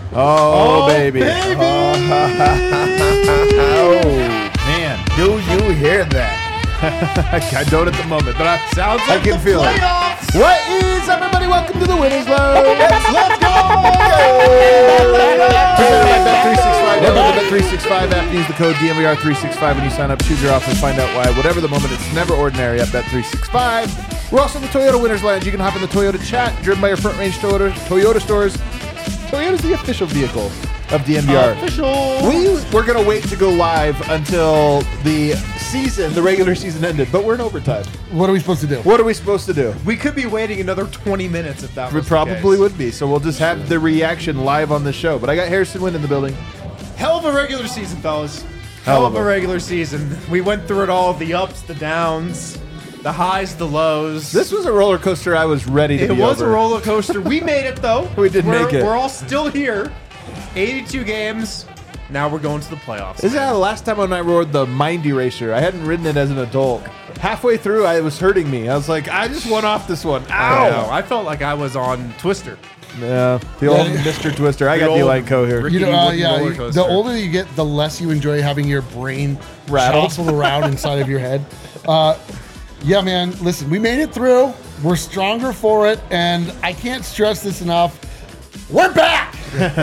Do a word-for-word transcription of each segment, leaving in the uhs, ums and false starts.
Oh, oh baby. baby. Oh, man. Do you hear that? I don't at the moment, but I, Sounds like I can the feel playoffs. it. What is up, everybody? Welcome to the Winners Lounge. Let's go. Presented by Bet three sixty-five. Download the Bet three sixty-five app. Use the code D M V R three sixty-five when you sign up. Choose your offer and find out why. Whatever the moment, it's never ordinary at Bet three sixty-five. We're also in the Toyota Winners Lounge. You can hop in the Toyota chat, driven by your front range Toyota, Toyota stores. Toyota's the official vehicle of D M V R. Official. We were going to wait to go live until the season, the regular season ended, but we're in overtime. What are we supposed to do? What are we supposed to do? We could be waiting another twenty minutes if that We was probably the case. would be, so we'll just have the reaction live on the show. But I got Harrison Wind in the building. Hell of a regular season, fellas. Hell Hell of of a- a regular season. We went through it all, the ups, the downs, the highs, the lows. This was a roller coaster I was ready to It be was over. a roller coaster. We made it, though. We did we're, make it. We're all still here. eighty-two games. Now we're going to the playoffs. This is how the last time when I rode the Mind Eraser. I hadn't ridden it as an adult. Halfway through, I, it was hurting me. I was like, I just went off this one. I know. Ow! I felt like I was on Twister. Yeah, the old Mister Twister. I The got old D-Line Co here. Ricky You know, uh, wooden yeah. roller you- coaster. The older you get, the less you enjoy having your brain Rattled. shuffle around inside of your head. Uh, yeah, man. Listen, we made it through. We're stronger for it, and I can't stress this enough. We're back.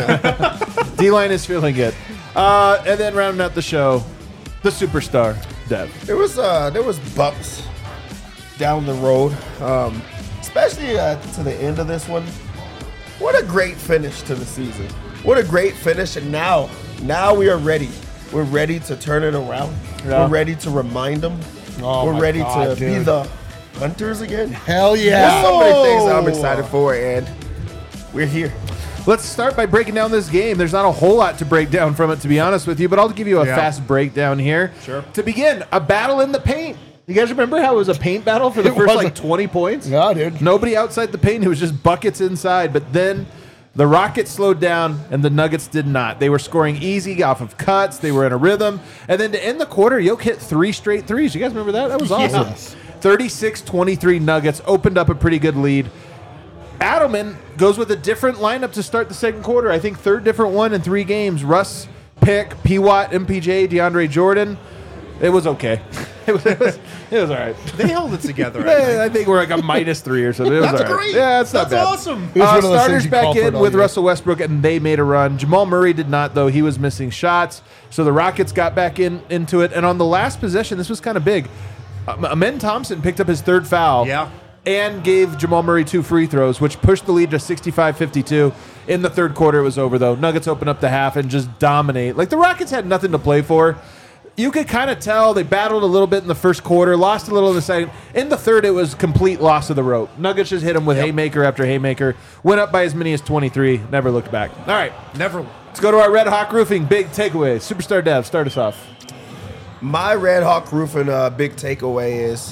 D-Line is feeling it. Uh, and then rounding out the show, the superstar, Dev. There was uh, there was bumps down the road, um, especially uh, to the end of this one. What a great finish to the season! What a great finish, and now, now we are ready. We're ready to turn it around. Yeah. We're ready to remind them. Oh We're my ready God, to be dude. the hunters again. Hell There's yeah. so many things that I'm excited for, and we're here. Let's start by breaking down this game. There's not a whole lot to break down from it, to be honest with you, but I'll give you a Yeah. fast breakdown here. Sure. To begin, a battle in the paint. You guys remember how it was a paint battle for the It first was like a- twenty points? Yeah, dude. Nobody outside the paint. It was just buckets inside. But then the Rockets slowed down and the Nuggets did not. They were scoring easy off of cuts. They were in a rhythm. And then to end the quarter, Yoke hit three straight threes. You guys remember that? That was awesome. Yes. thirty-six twenty-three Nuggets opened up a pretty good lead. Adelman goes with a different lineup to start the second quarter. I think third different one in three games. Russ, Pick, P. Watt, M P J, DeAndre Jordan. It was okay. It was, it was, it was all right. They held it together. I think. Yeah, I think we're like a minus three or something. It was That's all right. great. Yeah, it's not That's bad. awesome. It was Uh, one of those starters things you back call for it in all with year. Russell Westbrook, and they made a run. Jamal Murray did not, though. He was missing shots. So the Rockets got back in into it. And on the last possession, this was kind of big. Um, Amen Thompson picked up his third foul. Yeah. And gave Jamal Murray two free throws, which pushed the lead to sixty-five fifty-two. In the third quarter, it was over, though. Nuggets open up the half and just dominate. Like, the Rockets had nothing to play for. You could kind of tell they battled a little bit in the first quarter, lost a little in the second. In the third, it was complete loss of the rope. Nuggets just hit them with Yep. haymaker after haymaker. Went up by as many as twenty-three. Never looked back. All right, Never. let's go to our Red Hawk Roofing big takeaways. Superstar Dev, start us off. My Red Hawk Roofing uh, big takeaway is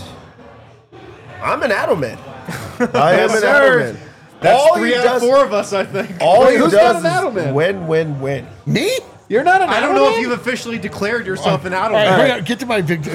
I'm an Adelman. I am Yes, an sir. Adelman. That's All three he out does- of four of us, I think. All Wait, he who's does not an is Adelman? win, win, win. Me? You're not an I don't know if Adelman? you've officially declared yourself an All out right, of hurry up, get to my big.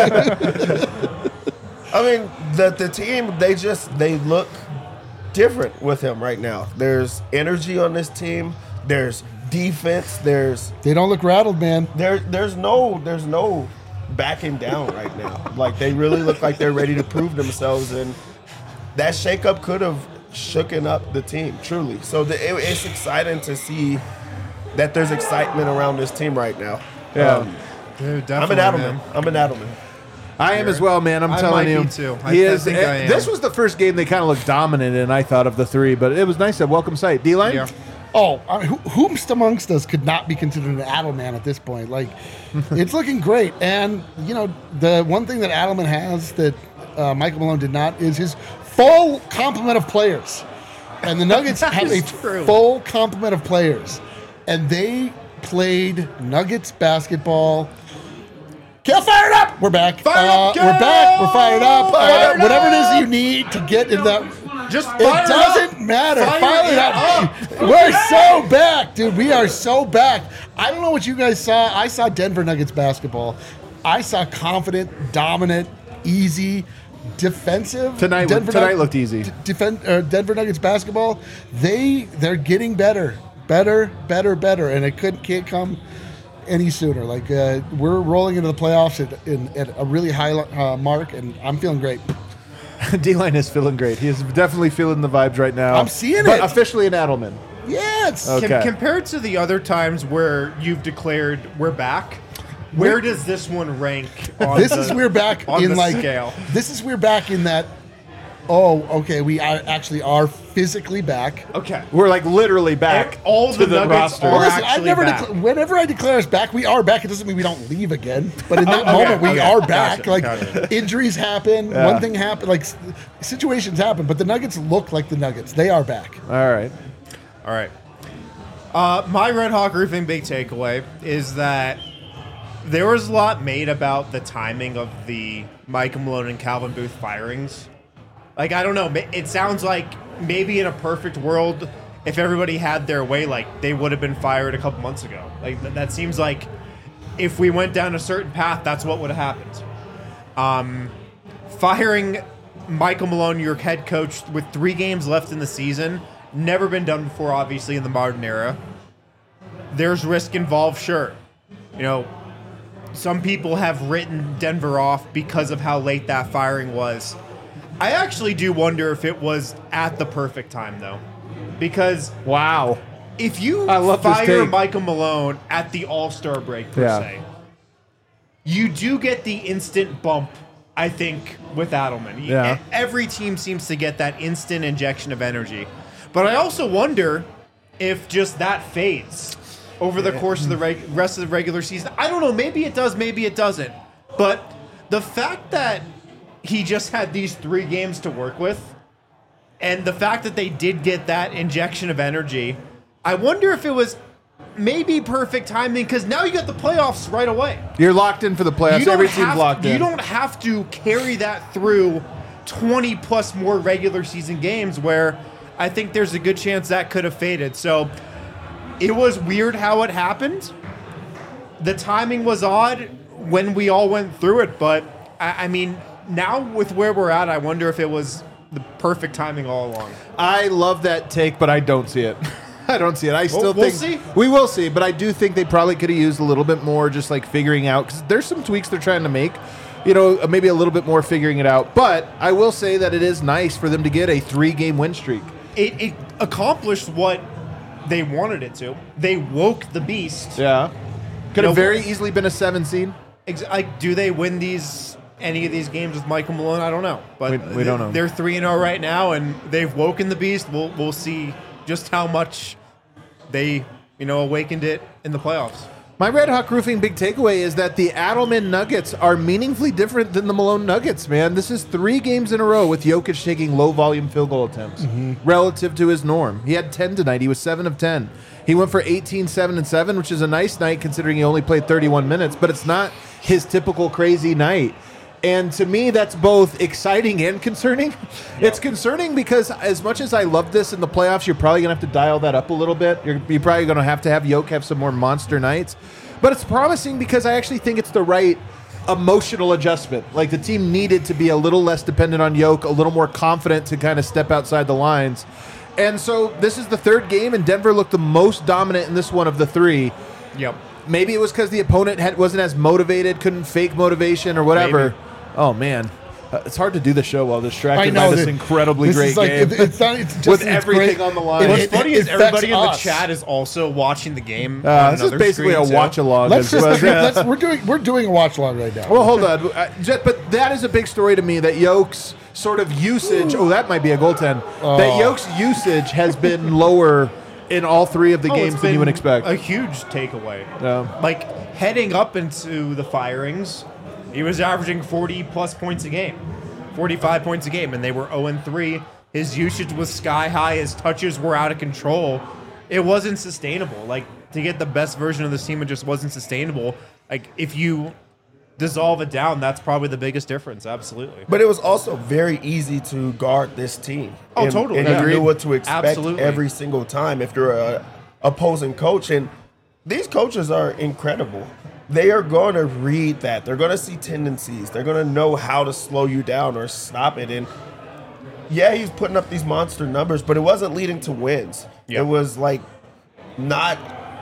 I mean, the the team, they just they look different with him right now. There's energy on this team. There's defense. There's They don't look rattled, man. there there's no there's no backing down right now. Like, they really look like they're ready to prove themselves, and that shakeup could have shooken up the team truly. So the, it, it's exciting to see that there's excitement around this team right now. Yeah. Um, Dude, I'm an definitely, Adelman. man. I'm an Adelman. I am as well, man. I'm I telling might you. be too. I- he I is. think I eh, am. This was the first game they kind of looked dominant in, I thought, of the three, but it was nice to welcome sight. D-Line? Yeah. Oh, I mean, who, whomst amongst us could not be considered an Adelman at this point? Like, it's looking great. And, you know, the one thing that Adelman has that uh, Michael Malone did not is his full complement of players. And the Nuggets have a is true. full complement of players. And they played Nuggets basketball. Get fired up! We're back. Fire uh, up, we're back. We're fired up. Fired uh, whatever it up! is you need to get in that. Just It fire doesn't up. matter. Fire Fire, it it up. We're so back, dude. We are so back. I don't know what you guys saw. I saw Denver Nuggets basketball. I saw confident, dominant, easy, defensive. Tonight- Denver tonight Nug- looked easy. d- Defend, uh, Denver Nuggets basketball. They they're getting better. better, better, better, and it could can't come any sooner. Like uh, we're rolling into the playoffs at, in, at a really high uh, mark, and I'm feeling great. D-line is feeling great. He is definitely feeling the vibes right now. I'm seeing but it. officially an Adelman. Yes. Okay. Com- compared to the other times where you've declared we're back, where does this one rank on This the, is we're back on in the like scale? this is we're back in that. Oh, okay. We are actually are physically back. Okay. We're like literally back. All to the the Nuggets roster. are Well, listen, I've actually never back. decla- whenever I declare us back, we are back. It doesn't mean we don't leave again. But in that Okay, moment, we okay. are back. Gotcha, like gotcha. injuries happen, Yeah. one thing happen, like s- situations happen. But the Nuggets look like the Nuggets. They are back. All right. All right. Uh, my Red Hawk Roofing big takeaway is that there was a lot made about the timing of the Michael Malone and Calvin Booth firings. Like, I don't know. ma- It sounds like maybe in a perfect world, if everybody had their way, like, they would have been fired a couple months ago. Like, th- that seems like if we went down a certain path, that's what would have happened. Um, firing Michael Malone, your head coach, with three games left in the season, never been done before, obviously, in the modern era. There's risk involved, sure. You know, some people have written Denver off because of how late that firing was. I actually do wonder if it was at the perfect time, though. Because Wow. if you I love this fire take. Michael Malone at the All-Star break, per Yeah. se, you do get the instant bump, I think, with Adelman. Yeah. E- Every team seems to get that instant injection of energy. But I also wonder if just that fades over the course of the reg- rest of the regular season. I don't know. Maybe it does. Maybe it doesn't. But the fact that he just had these three games to work with, and the fact that they did get that injection of energy, I wonder if it was maybe perfect timing, because now you got the playoffs right away. You're locked in for the playoffs. You don't Every team's have- locked in. You don't have to carry that through twenty plus more regular season games, where I think there's a good chance that could have faded. So it was weird how it happened. The timing was odd when we all went through it, but I, I mean, now with where we're at, I wonder if it was the perfect timing all along. I love that take, but I don't see it. I don't see it. I still we'll think see. we will see, but I do think they probably could have used a little bit more, just like figuring out, because there's some tweaks they're trying to make. You know, maybe a little bit more figuring it out. But I will say that it is nice for them to get a three-game win streak. It, it accomplished what they wanted it to. They woke the beast. Yeah, could You have know, very easily been a seven seed. Ex- Like, do they win these any of these games with Michael Malone? I don't know, but We- we don't know. They're three and zero right now, and they've woken the beast. We'll we'll see just how much they you know awakened it in the playoffs. My Red Hawk Roofing big takeaway is that the Adelman Nuggets are meaningfully different than the Malone Nuggets, man. This is three games in a row with Jokic taking low-volume field goal attempts relative to his norm. He had ten tonight. He was seven of ten. He went for eighteen, seven, and seven, which is a nice night considering he only played thirty-one minutes, but it's not his typical crazy night. And to me, that's both exciting and concerning. It's concerning because as much as I love this in the playoffs, you're probably going to have to dial that up a little bit. You're, you're probably going to have to have Jokic have some more monster nights. But it's promising because I actually think it's the right emotional adjustment. Like the team needed to be a little less dependent on Jokic, a little more confident to kind of step outside the lines. And so this is the third game, and Denver looked the most dominant in this one of the three. Yep. Maybe it was because the opponent had, wasn't as motivated, couldn't fake motivation or whatever. Maybe. Oh, man. Uh, it's hard to do the show while distracted I know by this that- incredibly this great is like, game. it- it's not, it's just, With it's everything great. on the line. It- What's it- funny it is everybody in the affects us. chat is also watching the game. Uh, on this is another basically a screen, too. watch-along. Let's as just well. let's, we're doing we're doing a watch along right now. Well, hold on. Uh, just- But that is a big story to me that Yokes sort of usage. Oh, that might be a goaltend. That Oh. Yokes usage has been lower in all three of the Oh, it's games than you would been expect. A huge takeaway. Yeah. Like heading up into the firings, he was averaging forty plus points a game, forty-five points a game, and they were zero and three. His usage was sky high. His touches were out of control. It wasn't sustainable. Like to get the best version of this team, it just wasn't sustainable. Like if you dissolve it down, that's probably the biggest difference. Absolutely. But it was also very easy to guard this team. Oh, and, totally. And Agreed. you knew what to expect Absolutely. every single time if you're a opposing coach. And these coaches are incredible. They are going to read that. They're going to see tendencies. They're going to know how to slow you down or stop it. And yeah, he's putting up these monster numbers, but it wasn't leading to wins. Yep. It was like not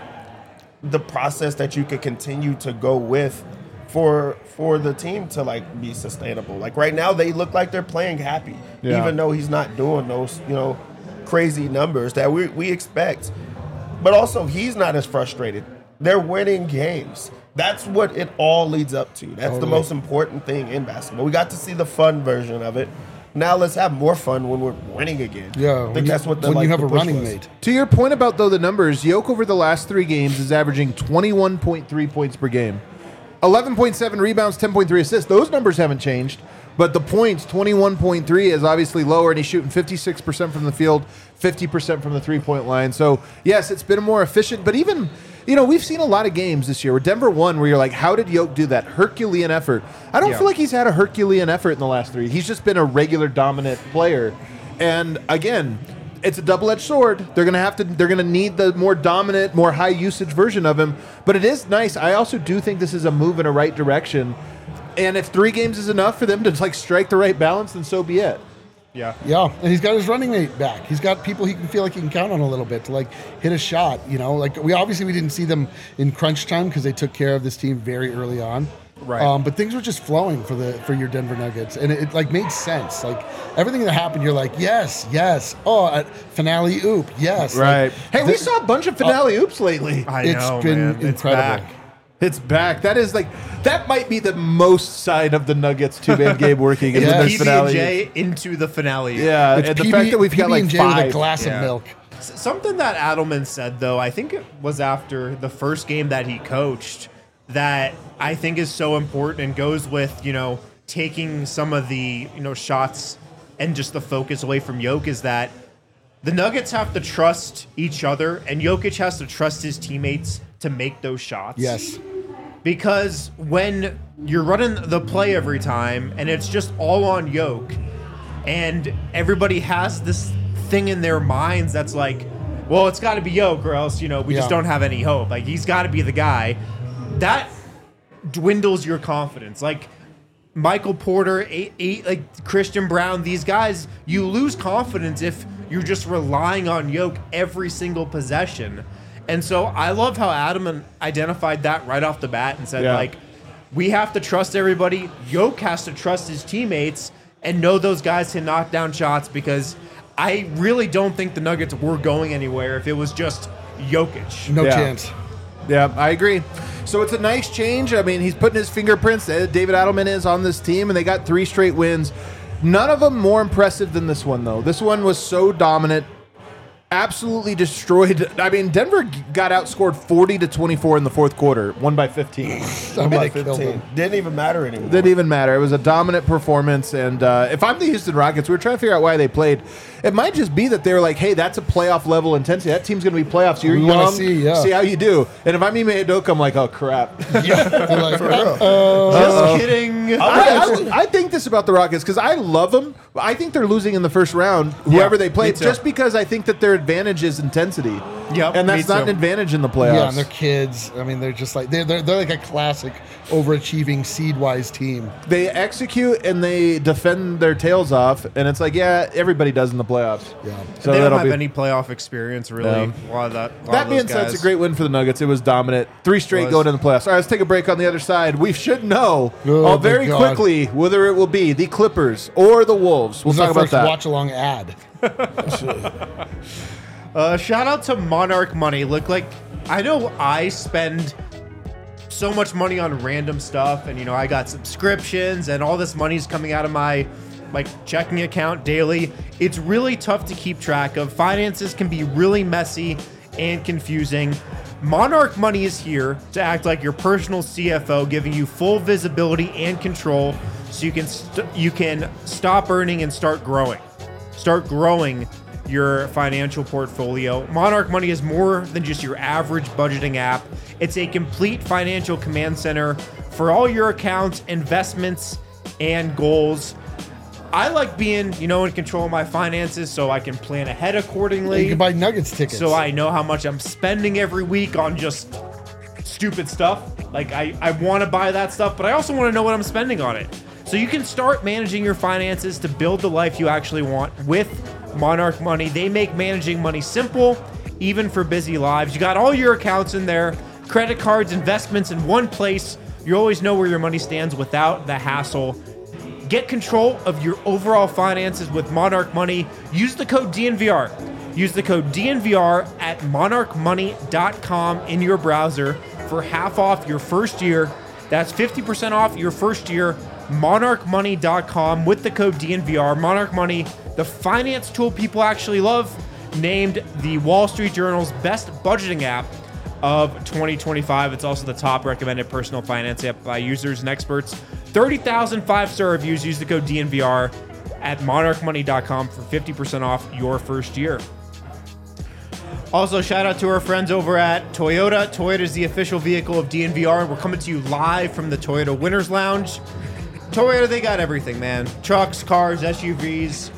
the process that you could continue to go with for for the team to like be sustainable. Like right now, they look like they're playing happy, Yeah. even though he's not doing those you know crazy numbers that we we expect. But also, he's not as frustrated. They're winning games. That's what it all leads up to. That's the Totally. most important thing in basketball. We got to see the fun version of it. Now let's have more fun when we're winning again. Yeah, I when think you, that's what the, when like, you have the a push running was. mate. To your point about, though, the numbers, Yoke over the last three games is averaging twenty-one point three points per game. eleven point seven rebounds, ten point three assists. Those numbers haven't changed. But the points, twenty-one point three, is obviously lower, and he's shooting fifty-six percent from the field, fifty percent from the three-point line. So, yes, it's been more efficient. But even, you know, we've seen a lot of games this year where Denver won where you're like, how did Yoke do that? Herculean effort. I don't Yeah. feel like he's had a Herculean effort in the last three. He's just been a regular dominant player. And, again, it's a double-edged sword. They're gonna have to. They're gonna need the more dominant, more high-usage version of him. But it is nice. I also do think this is a move in a right direction. And if three games is enough for them to like strike the right balance, then so be it. Yeah. Yeah, and he's got his running mate back. He's got people he can feel like he can count on a little bit to like hit a shot. You know, like we obviously we didn't see them in crunch time because they took care of this team very early on. Right. Um, but things were just flowing for the for your Denver Nuggets, and it, it like made sense. Like everything that happened, you're like, yes, yes. Oh, at finale oop, yes. Right. Like, Hey, we the- saw a bunch of finale oops lately. I It's know, been man. It's incredible. back. It's back. That is like that might be the most side of the Nuggets two man game working is Yeah. when there's P B and finale. J into the finale. Yeah, It's and the P B fact that we've got like P B and J five. with a glass Yeah. of milk. S- Something that Adelman said, though, I think it was after the first game that he coached, that I think is so important and goes with, you know, taking some of the, you know, shots and just the focus away from Jokic, is that the Nuggets have to trust each other and Jokic has to trust his teammates to make those shots. Yes. Because when you're running the play every time and it's just all on Yoke and everybody has this thing in their minds that's like, well, it's got to be Yoke or else, you know, we just Yeah. don't have any hope. Like, he's got to be the guy. That dwindles your confidence. Like, Michael Porter, eight, eight, like Christian Brown, these guys, you lose confidence if you're just relying on Yoke every single possession. And so I love how Adam identified that right off the bat and said, Yeah. like, we have to trust everybody. Yoke has to trust his teammates and know those guys can knock down shots, because I really don't think the Nuggets were going anywhere if it was just Jokic. No Yeah. chance. Yeah, I agree. So it's a nice change. I mean, he's putting his fingerprints. uh, David Adelman is on this team, and they got three straight wins. None of them more impressive than this one, though. This one was so dominant, absolutely destroyed. I mean, Denver g- got outscored forty to twenty-four in the fourth quarter, won by fifteen. I mean, About they killed fifteen. him. Didn't even matter anymore. Didn't even matter. It was a dominant performance. And uh, if I'm the Houston Rockets, we were trying to figure out why they played. It might just be that they were like, hey, that's a playoff level intensity. That team's going to be playoffs. You're We wanna young. see, yeah. see how you do. And if I'm Ime Udoka, I'm like, oh, crap. They're like, For real. Just kidding. I, I, I think this about the Rockets because I love them. I think they're losing in the first round, whoever Yeah, they play, me too. just because I think that their advantage is intensity. Yep, and that's me not too. an advantage in the playoffs. yeah, and they're kids. I mean, they're just like they're they're, they're like a classic overachieving seed-wise team. They execute and they defend their tails off, and it's like, yeah, everybody does in the playoffs. Yeah. So they don't that'll have be. any playoff experience, really. No. A lot of that. a lot That of being those said, it's a guys. great win for the Nuggets. It was dominant. Three straight Was. going in the playoffs. All right, let's take a break on the other side. We should know Oh, uh, my very God. quickly whether it will be the Clippers or the Wolves. We'll This is talk our about first that. watch-along ad. Uh, shout out to Monarch Money. Look, like, I know I spend so much money on random stuff, and you know, I got subscriptions, and all this money's coming out of my like checking account daily. It's really tough to keep track of. Finances can be really messy and confusing. Monarch Money is here to act like your personal C F O, giving you full visibility and control, so you can st- you can stop earning and start growing. Start growing your financial portfolio. Monarch Money is more than just your average budgeting app. It's a complete financial command center for all your accounts, investments, and goals. I like being, you know, in control of my finances so I can plan ahead You accordingly. can buy Nuggets tickets. So I know how much I'm spending every week on just stupid stuff. Like, I, I want to buy that stuff, but I also want to know what I'm spending on it. So you can start managing your finances to build the life you actually want with Monarch Money. They make managing money simple even for busy lives. You got all your accounts in there, credit cards, investments in one place. You always know where your money stands without the hassle. Get control of your overall finances with Monarch Money. Use the code D N V R. Use the code D N V R at monarch money dot com in your browser for half off your first year. That's fifty percent off your first year. monarch money dot com with the code D N V R. Monarch Money, the finance tool people actually love, named the Wall Street Journal's best budgeting app of twenty twenty-five. It's also the top recommended personal finance app by users and experts. thirty thousand five-star reviews. Use the code D N V R at monarch money dot com for fifty percent off your first year. Also, shout out to our friends over at Toyota. Toyota is the official vehicle of D N V R, and we're coming to you live from the Toyota Winners Lounge. Toyota, they got everything, man. Trucks, cars, S U Vs,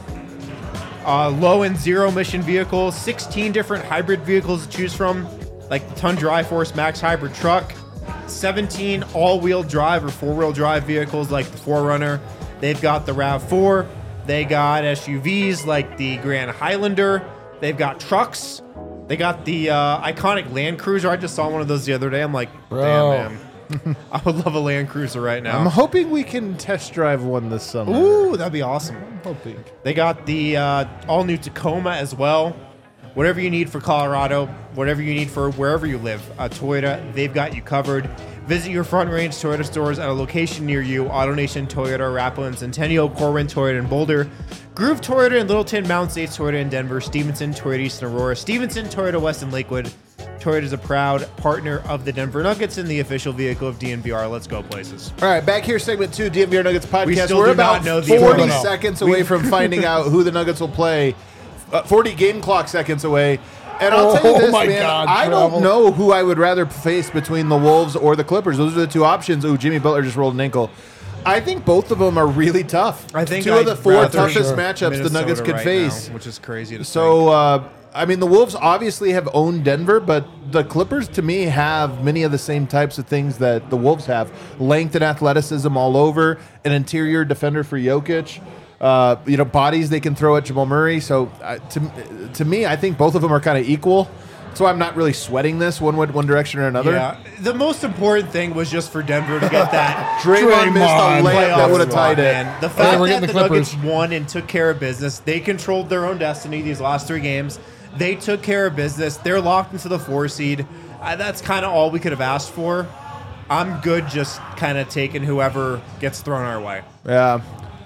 uh, low and zero emission vehicles, sixteen different hybrid vehicles to choose from, like the Tundra iForce Max hybrid truck, seventeen all-wheel drive or four-wheel drive vehicles like the four runner. They've got the RAV four. They got S U Vs like the Grand Highlander. They've got trucks. They got the uh, iconic Land Cruiser. I just saw one of those the other day. I'm like, Bro. damn, man. I would love a Land Cruiser right now. I'm hoping we can test drive one this summer. Ooh, that'd be awesome. I'm hoping. They got the uh, all-new Tacoma as well. Whatever you need for Colorado, whatever you need for wherever you live, uh, Toyota, they've got you covered. Visit your Front Range Toyota stores at a location near you. AutoNation Toyota, Rappaland, Centennial, Corwin Toyota in Boulder, Groove Toyota in Littleton, Mountain States Toyota in Denver, Stevenson Toyota East in Aurora, Stevenson Toyota West in Lakewood. Toyota is a proud partner of the Denver Nuggets and the official vehicle of D N V R. Let's go places. All right, back here, segment two, D N V R Nuggets podcast. We still We're do about not know the forty order. seconds away from finding out who the Nuggets will play. Uh, forty game clock seconds away. And I'll tell you Oh this, my man, God, I Travel. don't know who I would rather face between the Wolves or the Clippers. Those are the two options. Ooh, Jimmy Butler just rolled an ankle. I think both of them are really tough. I think two I'd of the four rather toughest sure. matchups the Minnesota Nuggets could right face. now, which is crazy to So, uh, I mean, the Wolves obviously have owned Denver, but the Clippers, to me, have many of the same types of things that the Wolves have. Length and athleticism all over, an interior defender for Jokic, uh, you know, bodies they can throw at Jamal Murray. So, uh, to, to me, I think both of them are kind of equal. So I'm not really sweating this one one direction or another. Yeah, the most important thing was just for Denver to get that Draymond missed a Draymond. layup that would have playoff tied it. spot, man. The Yeah, fact we're that getting the the Nuggets Clippers. won and took care of business, they controlled their own destiny these last three games. They took care of business. They're locked into the four seed. Uh, that's kind of all we could have asked for. I'm good just kind of taking whoever gets thrown our way. Yeah.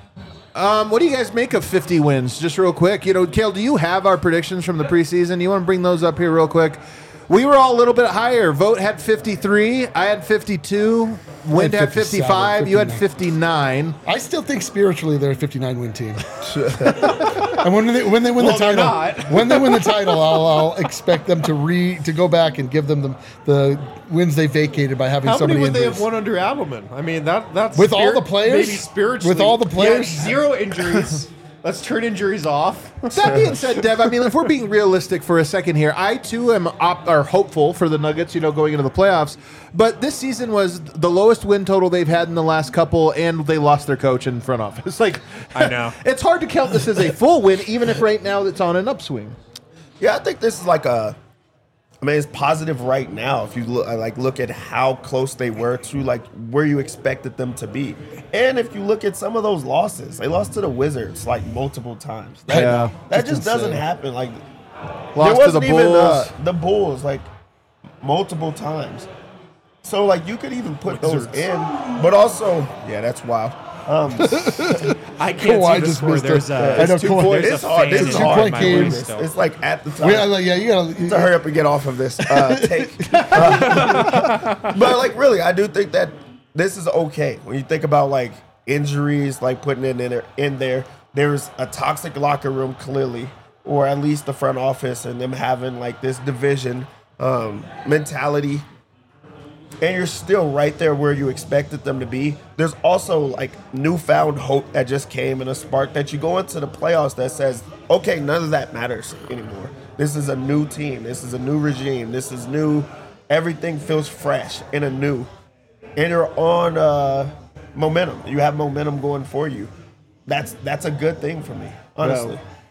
Um, what do you guys make of fifty wins? Just real quick. You know, Kale, do you have our predictions from the preseason? You want to bring those up here real quick? We were all a little bit higher. Vote had fifty-three. I had fifty-two. Wind had fifty-seven, fifty-five. You had fifty-nine. fifty-nine. I still think spiritually they're a fifty-nine win team. And when they when they win Well, the they're title, not. when they win the title, I'll, I'll expect them to re to go back and give them the, the wins they vacated by having How so many many would they injuries. have won under Adelman? I mean, that that's With all spirit- the players? maybe spiritually. With all the players? Yeah, zero injuries. Let's turn injuries off. That being said, Dev, I mean, if we're being realistic for a second here, I too am op- or hopeful for the Nuggets, you know, going into the playoffs. But this season was the lowest win total they've had in the last couple, and they lost their coach in front office. Like, I know. It's hard to count this as a full win, even if right now it's on an upswing. Yeah, I think this is like a. I mean, it's positive right now. If you look, like, look at how close they were to like where you expected them to be, and if you look at some of those losses, they lost to the Wizards like multiple times. That, Yeah. that That's just doesn't insane. happen. Like, Lost there to the wasn't even Bulls. uh, the Bulls like multiple times. So like you could even put those in, but also yeah, that's wild. Um, I can't Kawhi see the just score. missed it. There's I a, know it's two Kawhi- point. there's It's a hard. fan This in is two hard. point my game. room It's- still. It's like at the time. We, uh, yeah, you gotta. to hurry up and get off of this uh, take. Uh, but like, really, I do think that this is okay when you think about like injuries, like putting it in there. In there, there's a toxic locker room clearly, or at least the front office, and them having like this division um, mentality. And you're still right there where you expected them to be. There's also like newfound hope that just came and a spark that you go into the playoffs that says, okay, none of that matters anymore. This is a new team. This is a new regime. This is new. Everything feels fresh and anew. And you're on uh, momentum. You have momentum going for you. That's that's a good thing for me, honestly.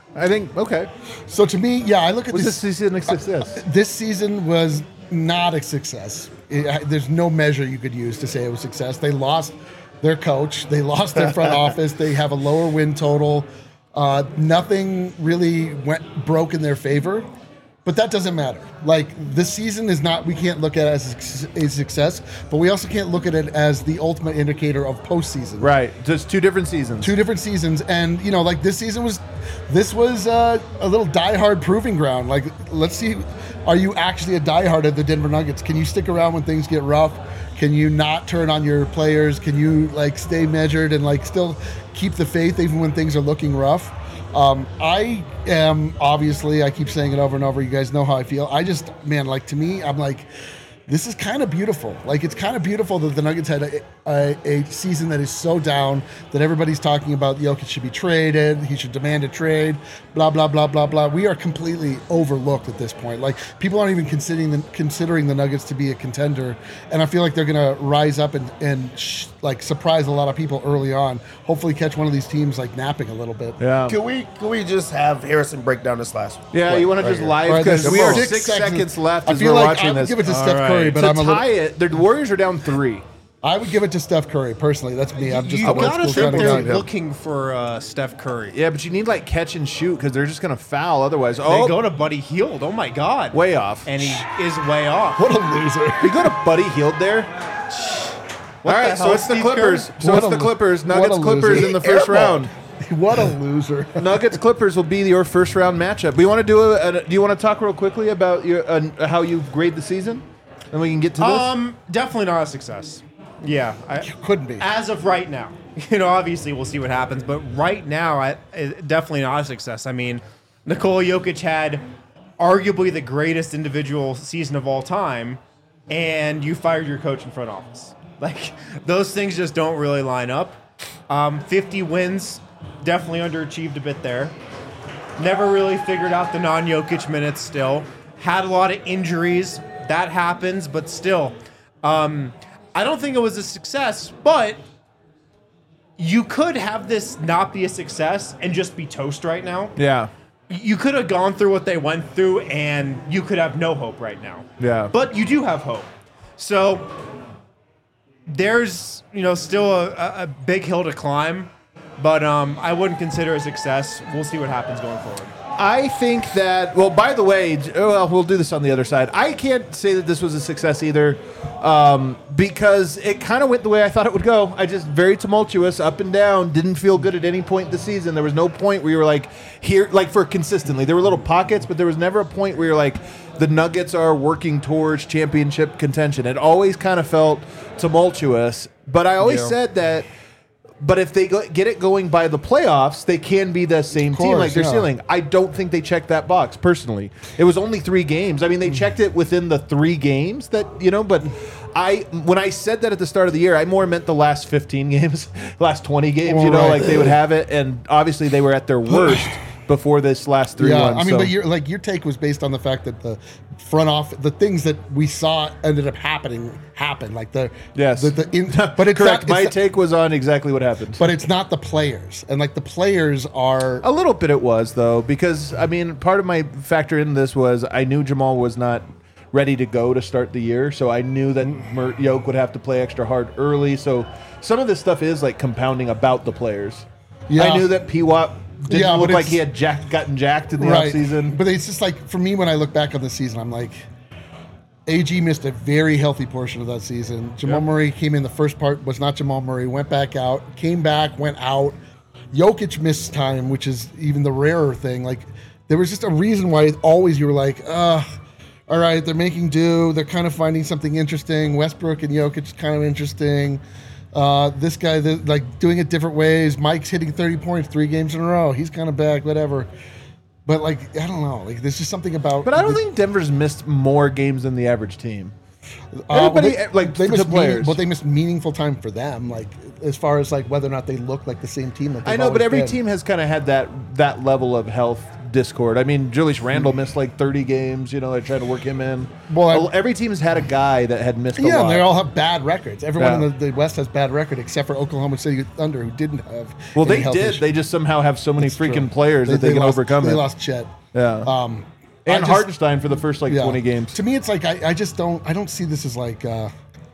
I think okay. So to me, yeah, I look at Was this. this season a success? This season was not a success. It, there's no measure you could use to say it was success. They lost their coach. They lost their front office. They have a lower win total. Uh, nothing really went broke in their favor. But that doesn't matter. Like, this season is not, we can't look at it as a success, but we also can't look at it as the ultimate indicator of postseason. Right. Just two different seasons. Two different seasons. And, you know, like this season was, this was uh, a little diehard proving ground. Like, let's see, are you actually a diehard of the Denver Nuggets? Can you stick around when things get rough? Can you not turn on your players? Can you, like, stay measured and, like, still keep the faith even when things are looking rough? Um, I am obviously, I keep saying it over and over. You guys know how I feel. I just, man, like to me, I'm like, this is kind of beautiful. Like, it's kind of beautiful that the Nuggets had a, a, a season that is so down that everybody's talking about Jokic should be traded. He should demand a trade, blah, blah, blah, blah, blah. We are completely overlooked at this point. Like, people aren't even considering the, considering the Nuggets to be a contender. And I feel like they're going to rise up and, and sh- like surprise a lot of people early on. Hopefully catch one of these teams like napping a little bit. Yeah. Can we can we just have Harrison break down this last one? Yeah, Play you want to right just here. live All right, because there's we are six six seconds. seconds left I as feel we're like watching I would this. give it to All Steph right. Curry, but to I'm a little. tie it, the Warriors are down three. I would give it to Steph Curry personally. That's me. I'm just you a old gotta school think kind they're of guy. looking for uh, Steph Curry. Yeah, but you need like catch and shoot because they're just gonna foul otherwise. They Oh, go to Buddy Hield. Oh my God. way off. And he is way off. What a loser! You go to Buddy Hield there. What All the right, so hell, it's the Steve Clippers. Kerr? So What it's a the lo- Clippers. what a Nuggets Clippers loser. in the first Airball. round. What a loser! Nuggets Clippers will be your first round matchup. We want to do a, a. Do you want to talk real quickly about your uh, how you grade the season, and we can get to this? Um, definitely not a success. Yeah, I, Couldn't be. as of right now. You know, obviously we'll see what happens, but right now, I, it, definitely not a success. I mean, Nikola Jokic had arguably the greatest individual season of all time, and you fired your coach in front office. Like, those things just don't really line up. Um, fifty wins, definitely underachieved a bit there. Never really figured out the non-Jokic minutes still. Had a lot of injuries. That happens, but still. Um, I don't think it was a success, but you could have this not be a success and just be toast right now. yeah. You could have gone through what they went through and you could have no hope right now. Yeah. But you do have hope. So there's, you know, still a, a big hill to climb, but um, I wouldn't consider it a success. We'll see what happens going forward. I think that, well, by the way, j- well, we'll do this on the other side. I can't say that this was a success either um, because it kind of went the way I thought it would go. I just, very tumultuous, up and down, didn't feel good at any point this season. There was no point where you were like, here, like for consistently. There were little pockets, but there was never a point where you're like, the Nuggets are working towards championship contention. It always kind of felt tumultuous, but I always Yeah. said that. But if they go, get it going by the playoffs, they can be the same team, course, like they're yeah. ceiling. I don't think they checked that box personally. It was only three games. I mean, they checked it within the three games that you know. But I, when I said that at the start of the year, I more meant the last fifteen games, last twenty games. You know, Right. like they would have it, and obviously they were at their worst before this last three Yeah, ones. I mean, so. but your like your take was based on the fact that the front off, the things that we saw ended up happening happened. Like the Yes. the, the in, but it's correct. Not, My it's, take was on exactly what happened. but it's not the players, and like the players are. A little bit it was, though, because, I mean, part of my factor in this was I knew Jamal was not ready to go to start the year, so I knew that Mert Yoke would have to play extra hard early. So some of this stuff is, like, compounding about the players. Yeah. I knew that P W A P didn't Yeah, but look like it's- he had jacked, gotten jacked in the Right, offseason. but it's just like for me when I look back on the season, I'm like, A G missed a very healthy portion of that season. Jamal Yep. Murray came in the first part, was not Jamal Murray, went back out, came back, went out. Jokic missed time, which is even the rarer thing. Like there was just a reason why always you were like, uh, all right, they're making do. They're kind of finding something interesting. Westbrook and Jokic kind of interesting. Uh, this guy, the, like doing it different ways. Mike's hitting thirty points three games in a row. He's kind of back, whatever. But like, I don't know. Like, there's just something about. But I don't think Denver's missed more games than the average team. Uh, well, Everybody, they, like, they to missed meaning, players. but they missed meaningful time for them. Like as far as like whether or not they look like the same team. That I they've know, but always every been. team has kind of had that that level of health discord. I mean, Julius Randle missed like thirty games. You know, they tried to work him in. Well, I- every team's had a guy that had missed a Yeah, lot. and they all have bad records. Everyone Yeah. in the, the West has bad record except for Oklahoma City Thunder, who didn't have. well, any they health did. issues. They just somehow have so many That's freaking true. players that they, can lost, overcome they it. lost Chet. Yeah. Um, and I just- Hartenstein for the first like yeah. twenty games. To me, it's like I, I just don't I don't see this as like uh,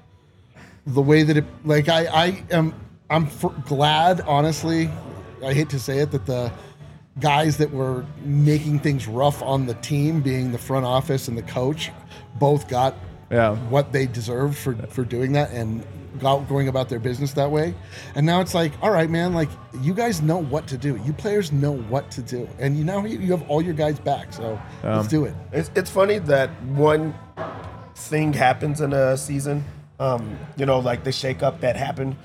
the way that it like I I am I'm f- glad honestly. I hate to say it that the guys that were making things rough on the team, being the front office and the coach, both got Yeah. what they deserved for for doing that and got, going about their business that way. And now it's like, all right, man, like you guys know what to do. You players know what to do, and you now you, you have all your guys back. So let's do it. It's, it's funny that one thing happens in a season, um, you know, like the shakeup that happened.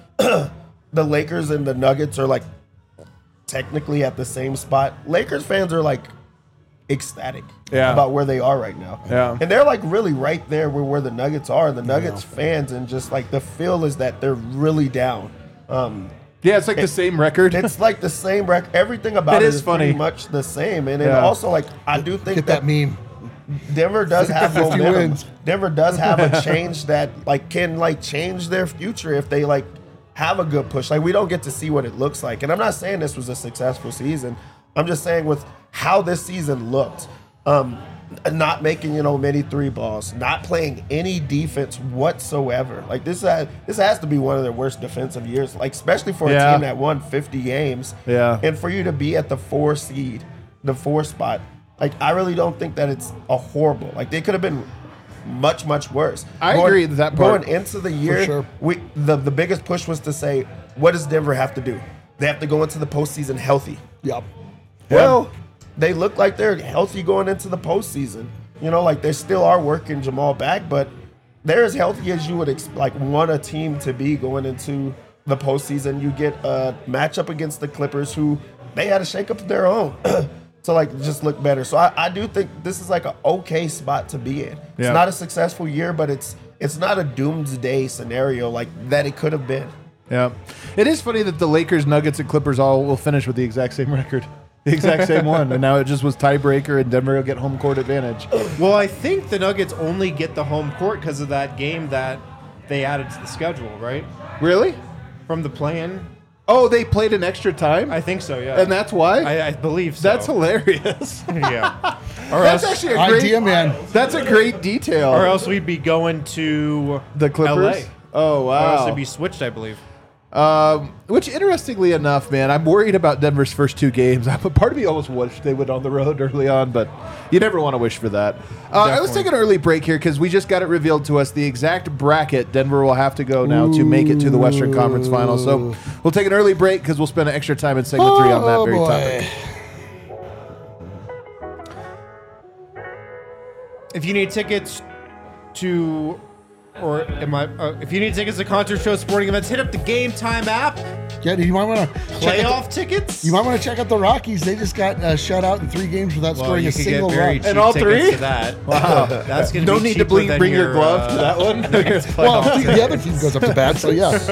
The Lakers and the Nuggets are like technically at the same spot. Lakers fans are like ecstatic Yeah. about where they are right now. Yeah. And they're like really right there where, where the Nuggets are. The Nuggets fans, and just like the feel is that they're really down. Um, Yeah, it's like the same record. it's like the same record. Everything about It it is is funny. pretty much the same. And then Yeah. also like I do think Get that meme. Denver does have fifty momentum. wins. Denver does have a change that like can like change their future if they like have a good push. Like we don't get to see what it looks like. And I'm not saying this was a successful season. I'm just saying with how this season looked, um, not making, you know, many three balls, not playing any defense whatsoever. Like this has, this has to be one of their worst defensive years, like especially for a Yeah. team that won fifty games. Yeah. And for you to be at the four seed, the four spot, like I really don't think that it's a horrible. Like they could have been much, much worse. I agree with that part. Going into the year, sure. we the, the biggest push was to say, what does Denver have to do? They have to go into the postseason healthy. Yep. Well, they look like they're healthy going into the postseason. You know, like they still are working Jamal back, but they're as healthy as you would ex- like want a team to be going into the postseason. You get a matchup against the Clippers, who they had a shakeup of their own to like just look better. So I, I do think this is like an okay spot to be in. It's Yeah. not a successful year, but it's it's not a doomsday scenario like that it could have been. Yeah. It is funny that the Lakers, Nuggets, and Clippers all will finish with the exact same record. The exact same one. And now it just was tiebreaker and Denver will get home court advantage. Well, I think the Nuggets only get the home court because of that game that they added to the schedule, right? Really? From the play-in. Oh, they played an extra time? I think so, yeah. and that's why? I, I believe so. That's hilarious. Yeah. Or That's else, actually a great Idea, man. That's a great detail. or else we'd be going to the Clippers? L A. Oh, Or else wow. it'd be switched, I believe. Um, which, interestingly enough, man, I'm worried about Denver's first two games. Part of me almost wished they went on the road early on, but you never want to wish for that. Uh, let's Definitely. take an early break here because we just got it revealed to us the exact bracket Denver will have to go now to make it to the Western Conference Finals. So we'll take an early break because we'll spend an extra time in segment three on that Oh, very boy. topic. If you need tickets to, or am I? Uh, if you need tickets to concert shows, sporting events, hit up the Game Time app. Yeah, you might want to Playoff tickets. You might want to check out the Rockies. They just got uh, shut out in three games without well, scoring you a could single get very run. cheap And all tickets three? to that. Wow. That's gonna No be need to cheaper bring, than bring your, your, glove uh, to that one. Well, playoff the, the other team goes up to bat, so yeah.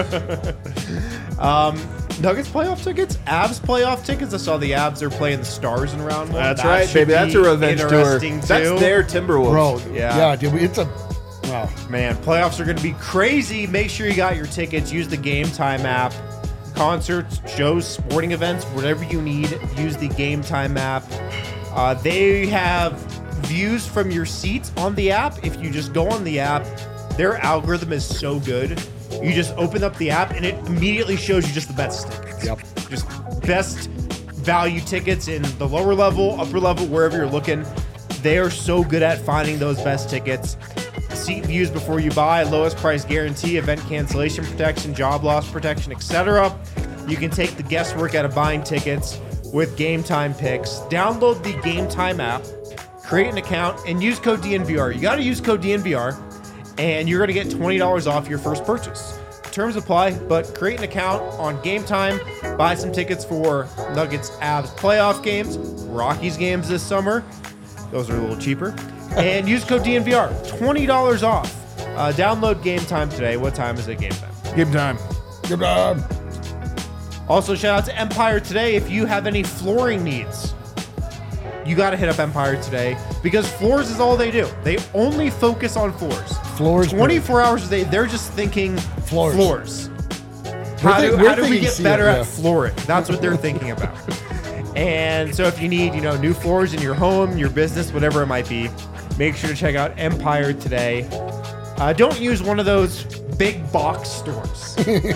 Nuggets playoff tickets, Avs playoff tickets. I saw the Avs are playing the Stars in round one. That's That right, should baby. That's a be revenge tour. interesting, That's too. their Timberwolves. Bro, Yeah. yeah, dude, it's a wow. Man, playoffs are going to be crazy. Make sure you got your tickets. Use the Game Time app. Concerts, shows, sporting events, whatever you need, use the Game Time app. Uh, they have views from your seats on the app. If you just go on the app, their algorithm is so good. You just open up the app and it immediately shows you just the best tickets. Yep. Just best value tickets in the lower level, upper level, wherever you're looking. They are so good at finding those best tickets. Seat views before you buy, lowest price guarantee, event cancellation protection, job loss protection, et cetera. You can take the guesswork out of buying tickets with Game Time picks. Download the Game Time app, create an account, and use code D N V R. You got to use code D N V R, and you're going to get twenty dollars off your first purchase. Terms apply, but create an account on Game Time, buy some tickets for Nuggets Avs playoff games, Rockies games this summer. Those are a little cheaper. And use code D N V R, twenty dollars off. Uh, download Game Time today. What time is it, Game Time? Game time. Good job. Also, shout out to Empire Today. If you have any flooring needs, you got to hit up Empire today because floors is all they do. They only focus on floors. Floors. twenty-four hours a day, they're just thinking Floors. floors. How thi- do, we're how do we thinking get seal, better yeah. at flooring? That's what they're thinking about. And so if you need, you know, new floors in your home, your business, whatever it might be, make sure to check out Empire today. Uh, don't use one of those big box stores.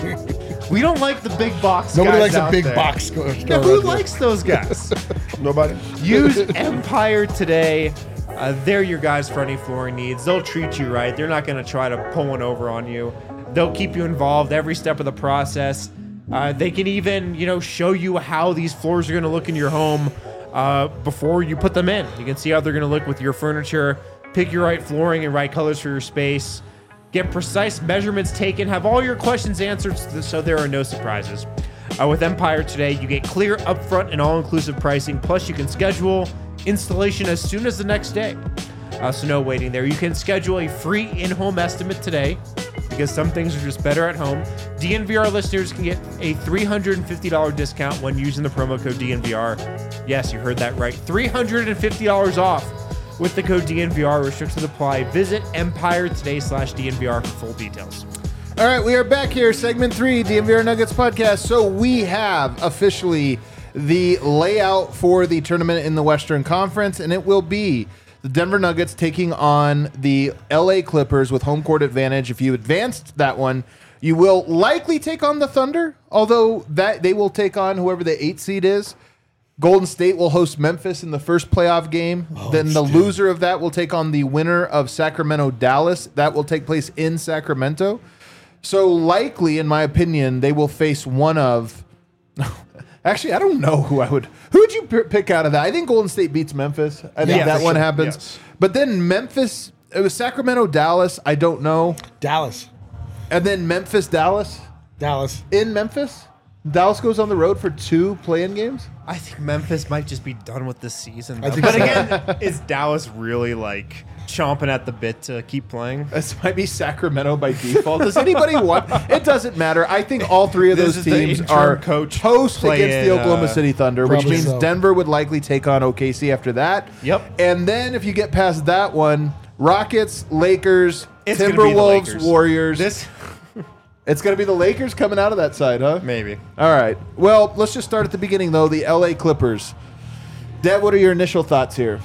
We don't like the big box Nobody guys likes a out big there. box store. Yeah, who likes those guys? Nobody. Use Empire today. Uh, they're your guys for any flooring needs. They'll treat you right. They're not going to try to pull one over on you. They'll keep you involved every step of the process. Uh, they can even, you know, show you how these floors are going to look in your home uh, before you put them in. You can see how they're going to look with your furniture. Pick your right flooring and right colors for your space. Get precise measurements taken. Have all your questions answered so there are no surprises. Uh, with Empire today, you get clear, upfront, and all-inclusive pricing. Plus, you can schedule installation as soon as the next day. Uh, so no waiting there. You can schedule a free in-home estimate today because some things are just better at home. D N V R listeners can get a three hundred fifty dollars discount when using the promo code D N V R. Yes, you heard that right. three hundred fifty dollars off with the code D N V R. Restrictions apply. Visit Empire today slash D N V R for full details. All right, we are back here, segment three, D N V R Nuggets podcast. So we have officially the layout for the tournament in the Western Conference, and it will be the Denver Nuggets taking on the L A Clippers with home court advantage. If you advanced that one, you will likely take on the Thunder, although that they will take on whoever the eight seed is. Golden State will host Memphis in the first playoff game. Oh, then the dude. loser of that will take on the winner of Sacramento-Dallas. That will take place in Sacramento. So likely, in my opinion, they will face one of... Actually, I don't know who I would... Who would you p- pick out of that? I think Golden State beats Memphis. I think Yeah, that for one sure. happens. Yes. But then Memphis... It was Sacramento-Dallas. I don't know. Dallas. And then Memphis-Dallas. Dallas. In Memphis? Dallas goes on the road for two play-in games? I think Memphis might just be done with this season. I though. think But so. again, is Dallas really like chomping at the bit to keep playing? This might be Sacramento by default. Does anybody want? It doesn't matter. I think all three of This those is the teams interim are coach host playing, against the Oklahoma uh, City Thunder, which Probably means so. Denver would likely take on O K C after that. Yep. And then if you get past that one, Rockets, Lakers, It's gonna be the Timberwolves, Lakers. Warriors. This It's going to be the Lakers coming out of that side, huh? maybe. All right. Well, let's just start at the beginning, though. The L A Clippers. Dad, what are your initial thoughts here?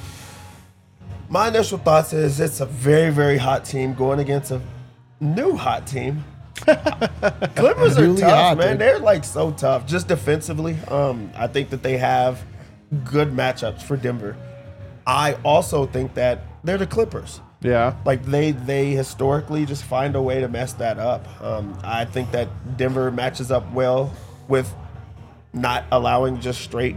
My initial thoughts is it's a very, very hot team going against a new hot team. Clippers are Really tough, hot, man. dude. They're like so tough, just defensively. Um, I think that they have good matchups for Denver. I also think that they're the Clippers. Yeah. Like they they historically just find a way to mess that up. Um, I think that Denver matches up well with not allowing just straight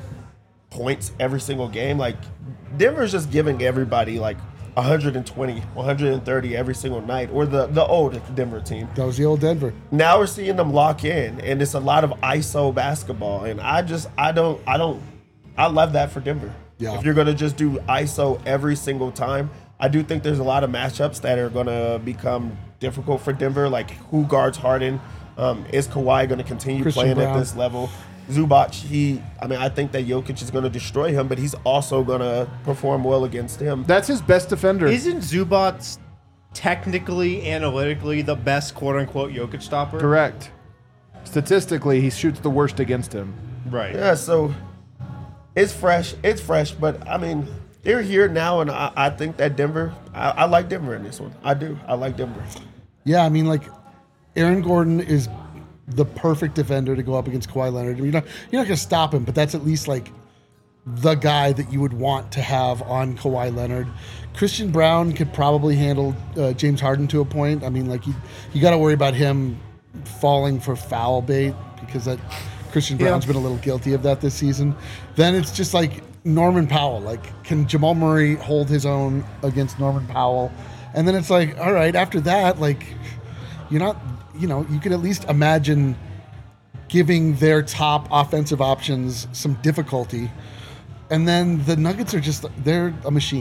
points every single game. Like Denver's just giving everybody like one hundred twenty, one hundred thirty every single night, or the the old Denver team. That was the old Denver. Now we're seeing them lock in, and it's a lot of I S O basketball. And I just I don't I don't I love that for Denver. Yeah. If you're gonna just do I S O every single time, I do think there's a lot of matchups that are gonna become difficult for Denver. Like who guards Harden? Um, is Kawhi gonna continue Christian playing Brown. at this level? Zubac, he I mean I think that Jokic is gonna destroy him, but he's also gonna perform well against him. That's his best defender. Isn't Zubac technically, analytically, the best quote-unquote Jokic stopper? Correct. Statistically, he shoots the worst against him. Right. Yeah, so it's fresh. It's fresh, but I mean, they're here now, and I, I think that Denver, I, I like Denver in this one. I do. I like Denver. Yeah, I mean, like, Aaron Gordon is the perfect defender to go up against Kawhi Leonard. You're not, you're not going to stop him, but that's at least, like, the guy that you would want to have on Kawhi Leonard. Christian Brown could probably handle uh, James Harden to a point. I mean, like, you, you got to worry about him falling for foul bait because that Christian Brown's been a little guilty of that this season. Then it's just like Norman Powell. Like, can Jamal Murray hold his own against Norman Powell? And then it's like, all right, after that, like, you're not, you know, you can at least imagine giving their top offensive options some difficulty. And then the Nuggets are just, they're a machine.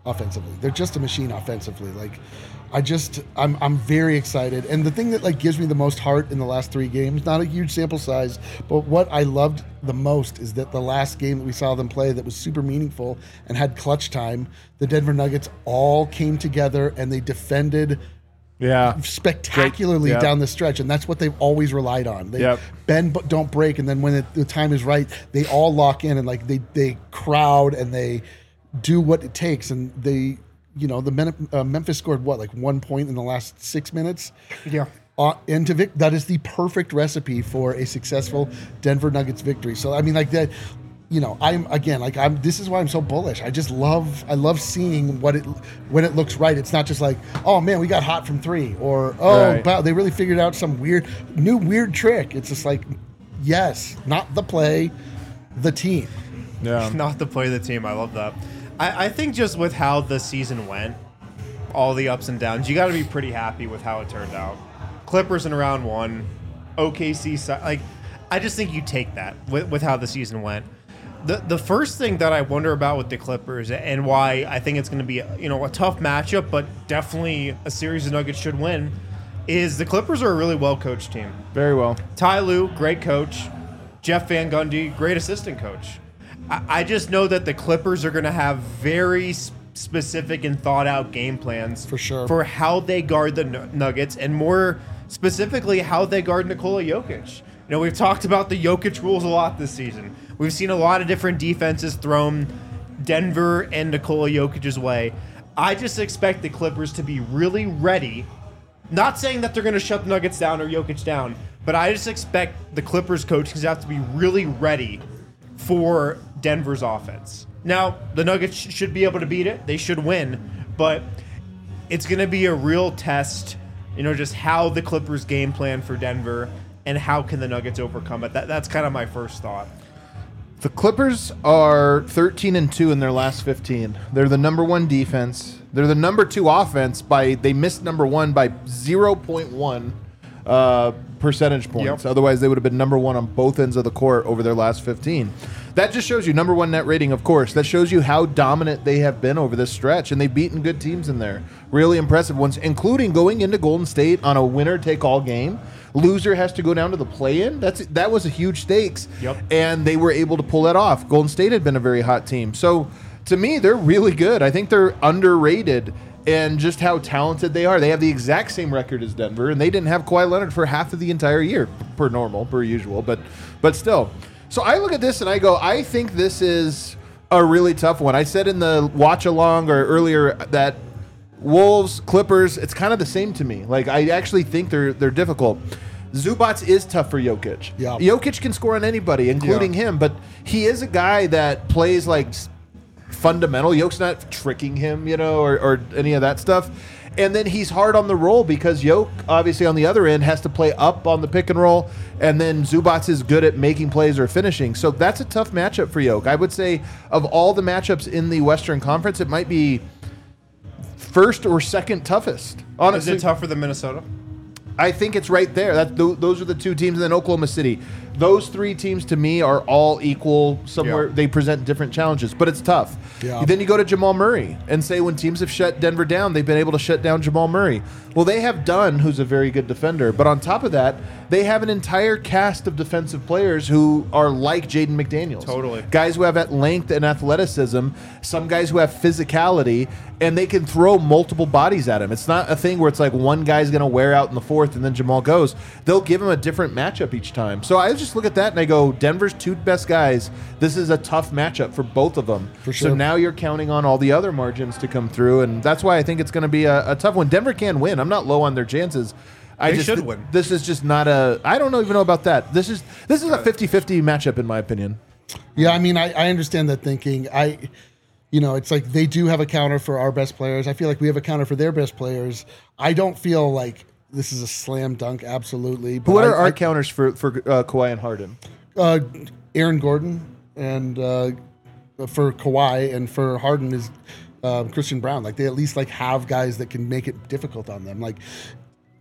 offensively. They're just a machine offensively. Like, I just, I'm, I'm very excited. And the thing that like gives me the most heart in the last three games, not a huge sample size, but what I loved the most is that the last game that we saw them play that was super meaningful and had clutch time, the Denver Nuggets all came together and they defended Yeah. spectacularly Great. Yep. down the stretch, and that's what they've always relied on. They Yep. bend but don't break, and then when it, the time is right, they all lock in and like they they crowd and they do what it takes. And they, you know, the Men- uh, Memphis scored what, like one point in the last six minutes. Yeah. Uh, into Vic, that is the perfect recipe for a successful Denver Nuggets victory. So I mean, like that. You know, I'm again like I'm. This is why I'm so bullish. I just love. I love seeing what it when it looks right. It's not just like, oh man, we got hot from three, or oh, Right. wow, they really figured out some weird, new weird trick. It's just like, yes, not the play, the team. Yeah. Not to play the team. I love that. I, I think just with how the season went, all the ups and downs, you got to be pretty happy with how it turned out. Clippers in round one, O K C, si- like, I just think you take that with, with how the season went. The the first thing that I wonder about with the Clippers and why I think it's going to be you know a tough matchup, but definitely a series the Nuggets should win, is the Clippers are a really well coached team. Very well. Ty Lue, great coach. Jeff Van Gundy, great assistant coach. I, I just know that the Clippers are going to have very s- specific and thought out game plans For sure. for how they guard the Nu- Nuggets, and more specifically how they guard Nikola Jokic. You know, we've talked about the Jokic rules a lot this season. We've seen a lot of different defenses thrown Denver and Nikola Jokic's way. I just expect the Clippers to be really ready. Not saying that they're going to shut the Nuggets down or Jokic down, but I just expect the Clippers coaching staff to be really ready for Denver's offense. Now, the Nuggets sh- should be able to beat it. They should win, but it's going to be a real test, you know, just how the Clippers game plan for Denver and how can the Nuggets overcome it. That, that's kind of my first thought. The Clippers are thirteen and two in their last fifteen. They're the number one defense. They're the number two offense by they missed number one by zero point one uh, percentage points. Yep. Otherwise, they would have been number one on both ends of the court over their last fifteen. That just shows you number one net rating, of course. That shows you how dominant they have been over this stretch, and they've beaten good teams in there. Really impressive ones, including going into Golden State on a winner-take-all game. Loser has to go down to the play-in. That's that was a huge stakes, Yep. and they were able to pull that off. Golden State had been a very hot team, so to me, they're really good. I think they're underrated. And just how talented they are. They have the exact same record as Denver, and they didn't have Kawhi Leonard for half of the entire year, per normal, per usual, but but still. So I look at this and I go, I think this is a really tough one. I said in the watch along or earlier that Wolves, Clippers, it's kind of the same to me. Like I actually think they're they're difficult. Zubats is tough for Jokic. Yeah. Jokic can score on anybody, including him, but he is a guy that plays like fundamental. Yoke's not tricking him, you know, or, or any of that stuff. And then he's hard on the roll because Yoke, obviously on the other end, has to play up on the pick and roll. And then Zubats is good at making plays or finishing. So that's a tough matchup for Yoke. I would say of all the matchups in the Western Conference, it might be first or second toughest. Honestly, Is it tougher than Minnesota? I think it's right there. That th- those are the two teams, and then Oklahoma City. Those three teams to me are all equal. Somewhere Yeah. they present different challenges, but it's tough. Yeah. Then you go to Jamal Murray and say when teams have shut Denver down, they've been able to shut down Jamal Murray. Well, they have Dunn, who's a very good defender, but on top of that, they have an entire cast of defensive players who are like Jaden McDaniels. Totally. Guys who have at length and athleticism, some guys who have physicality, and they can throw multiple bodies at him. It's not a thing where it's like one guy's going to wear out in the fourth and then Jamal goes. They'll give him a different matchup each time. So I just look at that and I go, Denver's two best guys. This is a tough matchup for both of them. For sure. So now you're counting on all the other margins to come through, and that's why I think it's going to be a, a tough one. Denver can win. I'm not low on their chances. I They just, should win. This is just not a. I don't know even know about that. This is this is a fifty-fifty matchup in my opinion. Yeah, I mean, I, I understand that thinking. I, you know, it's like they do have a counter for our best players. I feel like we have a counter for their best players. I don't feel like this is a slam dunk, absolutely. But What I, are our I, counters for for uh, Kawhi and Harden? uh, Aaron Gordon and uh, for Kawhi and for Harden is um, Christian Brown. Like they at least like have guys that can make it difficult on them. Like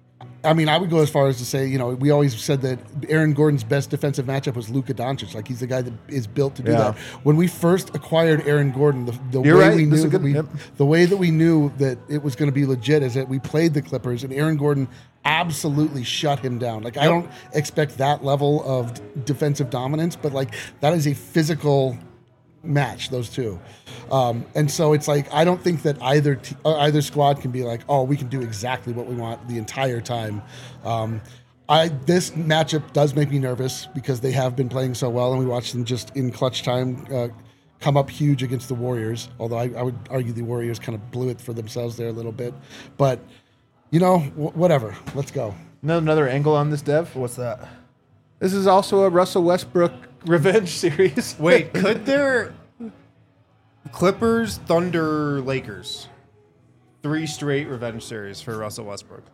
I mean, I would go as far as to say, you know, we always said that Aaron Gordon's best defensive matchup was Luka Doncic. Like, he's the guy that is built to do Yeah. that. When we first acquired Aaron Gordon, the, the You're way right. we This is knew a that good- we, yep. the way that we knew that it was going to be legit is that we played the Clippers and Aaron Gordon absolutely shut him down. Like, I don't expect that level of d- defensive dominance, but like that is a physical match, those two. Um, and so it's like I don't think that either t- uh, either squad can be like, oh, we can do exactly what we want the entire time. Um, I this matchup does make me nervous because they have been playing so well, and we watched them just in clutch time uh, come up huge against the Warriors. Although I, I would argue the Warriors kind of blew it for themselves there a little bit, but you know, w- whatever. Let's go. No, another angle on this, Dev. What's that? This is also a Russell Westbrook revenge series. Wait, could there Clippers, Thunder, Lakers? Three straight revenge series for Russell Westbrook.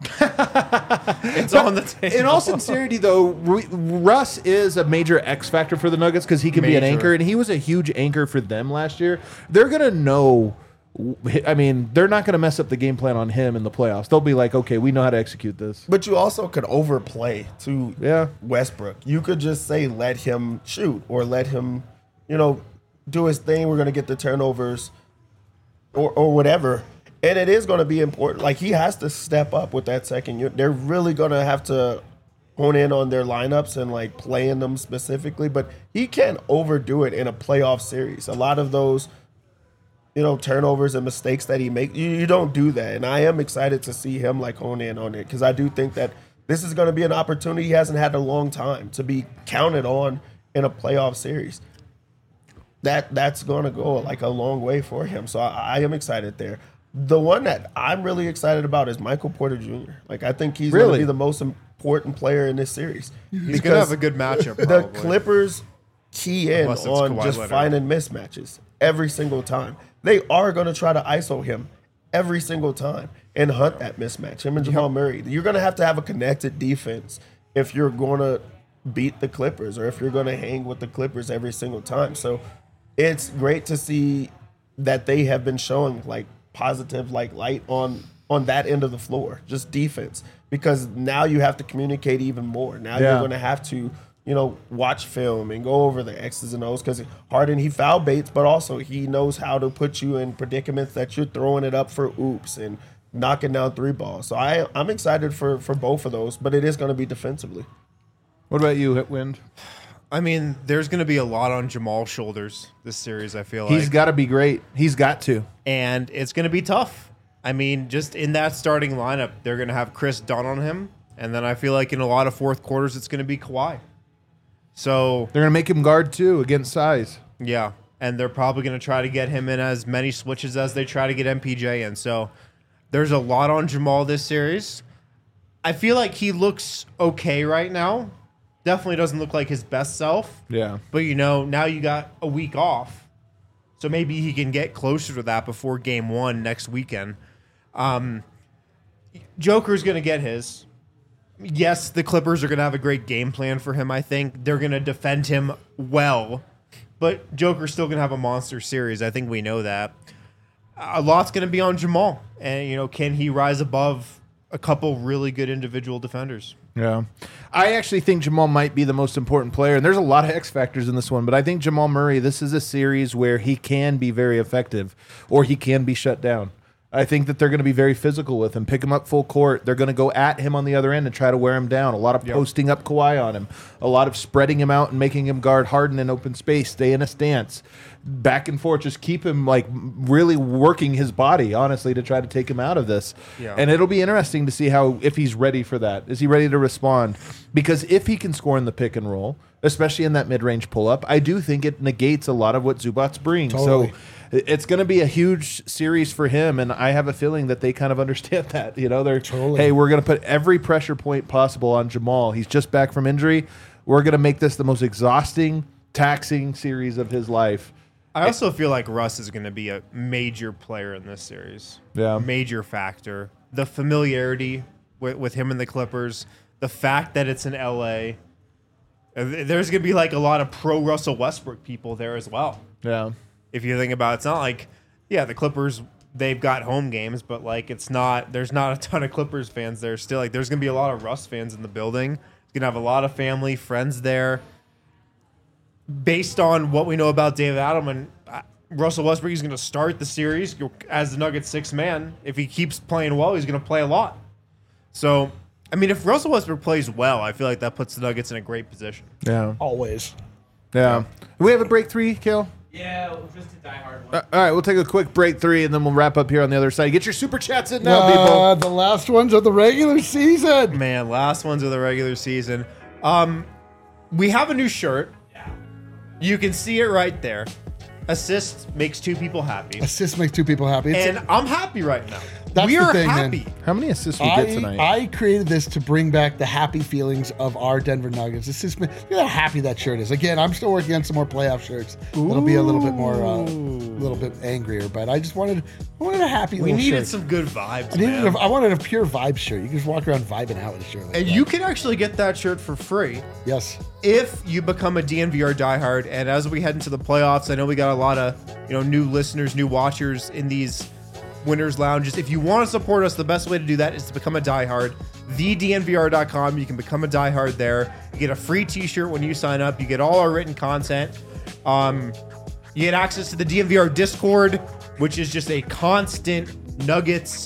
It's on the table. In all sincerity, though, Ru- Russ is a major X factor for the Nuggets because he can be an Major. anchor, and he was a huge anchor for them last year. They're gonna know. I mean, they're not gonna mess up the game plan on him in the playoffs. They'll be like, okay, we know how to execute this. But you also could overplay to Yeah. Westbrook. You could just say let him shoot or let him, you know, do his thing. We're gonna get the turnovers or or whatever. And it is going to be important. Like, he has to step up with that second unit. They're really going to have to hone in on their lineups and, like, playing them specifically. But he can't overdo it in a playoff series. A lot of those, you know, turnovers and mistakes that he makes, you, you don't do that. And I am excited to see him, like, hone in on it because I do think that this is going to be an opportunity he hasn't had in a long time to be counted on in a playoff series. That That's going to go, like, a long way for him. So I, I am excited there. The one that I'm really excited about is Michael Porter Junior Like, I think he's going Really? to be the most important player in this series. He's gonna have a good matchup. The Probably. Clippers key in Unless it's on Kawhi just Leonard. finding mismatches every single time. They are going to try to I S O him every single time and hunt that mismatch. Him and Jamal Murray. You're going to have to have a connected defense if you're going to beat the Clippers or if you're going to hang with the Clippers every single time. So it's great to see that they have been showing like positive like light on on that end of the floor, just defense, because now you have to communicate even more. Now Yeah. you're going to have to, you know, watch film and go over the X's and O's because Harden, he foul baits, but also he knows how to put you in predicaments that you're throwing it up for oops and knocking down three balls. So I, I'm excited for, for both of those, but it is going to be defensively. What about you, Hitwind? I mean, there's going to be a lot on Jamal's shoulders this series, I feel like. He's got to be great. He's got to. and it's going to be tough. I mean, just in that starting lineup, they're going to have Chris Dunn on him, and then I feel like in a lot of fourth quarters, it's going to be Kawhi. So, They're gonna make him guard too against size. yeah, and they're probably going to try to get him in as many switches as they try to get M P J in. So, there's a lot on Jamal this series. I feel like he looks okay right now. Definitely doesn't look like his best self. Yeah. But, you know, now you got a week off. So maybe he can get closer to that before game one next weekend. Um, Joker's going to get his. Yes, the Clippers are going to have a great game plan for him, I think. They're going to defend him well. But Joker's still going to have a monster series. I think we know that. A lot's going to be on Jamal. And, you know, can he rise above a couple really good individual defenders? Yeah. I actually think Jamal might be the most important player, and there's a lot of X factors in this one, but I think Jamal Murray, this is a series where he can be very effective or he can be shut down. I think that they're going to be very physical with him, pick him up full court. They're going to go at him on the other end and try to wear him down. A lot of posting up Kawhi on him, a lot of spreading him out and making him guard Harden in open space, stay in a stance, back and forth, just keep him like really working his body, honestly, to try to take him out of this. Yeah. And it'll be interesting to see how, if he's ready for that. Is he ready to respond? Because if he can score in the pick and roll, especially in that mid-range pull-up, I do think it negates a lot of what Zubats brings. Totally. So it's going to be a huge series for him, and I have a feeling that they kind of understand that. You know, they're, Totally. hey, we're going to put every pressure point possible on Jamal. He's just back from injury. We're going to make this the most exhausting, taxing series of his life. I also feel like Russ is going to be a major player in this series. Yeah. Major factor. The familiarity with, with him and the Clippers, the fact that it's in L A. Uh, There's going to be like a lot of pro Russell Westbrook people there as well. Yeah. If you think about it, it's not like, yeah, the Clippers they've got home games, but like it's not. There's not a ton of Clippers fans there still. Like there's gonna be a lot of Russ fans in the building. He's gonna have a lot of family, friends there. Based on what we know about David Adelman, uh, Russell Westbrook is gonna start the series as the Nuggets sixth man. If he keeps playing well, he's gonna play a lot. So, I mean, if Russell Westbrook plays well, I feel like that puts the Nuggets in a great position. Yeah. Always. Yeah. Do we have a break three, Kale? Yeah, just a diehard one. Uh, all right, we'll take a quick break three, and then we'll wrap up here on the other side. Get your super chats in now, Uh, people. the last ones of the regular season. Man, last ones of the regular season. Um, we have a new shirt. You can see it right there. Assist makes two people happy. Assist makes two people happy. It's And I'm happy right now. That's we the are thing, man. happy. How many assists we get I, tonight? I created this to bring back the happy feelings of our Denver Nuggets. It's just, look how happy that shirt is. Again, I'm still working on some more playoff shirts. It'll be a little bit more, a uh, little bit angrier, but I just wanted, I wanted a happy We little needed shirt. some good vibes, I needed, man. a, I wanted a pure vibe shirt. You can just walk around vibing out with a shirt like And that. you can actually get that shirt for free yes. if you become a D N V R diehard. And as we head into the playoffs, I know we got a lot of you know new listeners, new watchers in these winners lounges. If you want to support us, the best way to do that is to become a diehard. the D N V R dot com. You can become a diehard there. You get a free T-shirt when you sign up. You get all our written content. Um, you get access to the D N V R Discord, which is just a constant Nuggets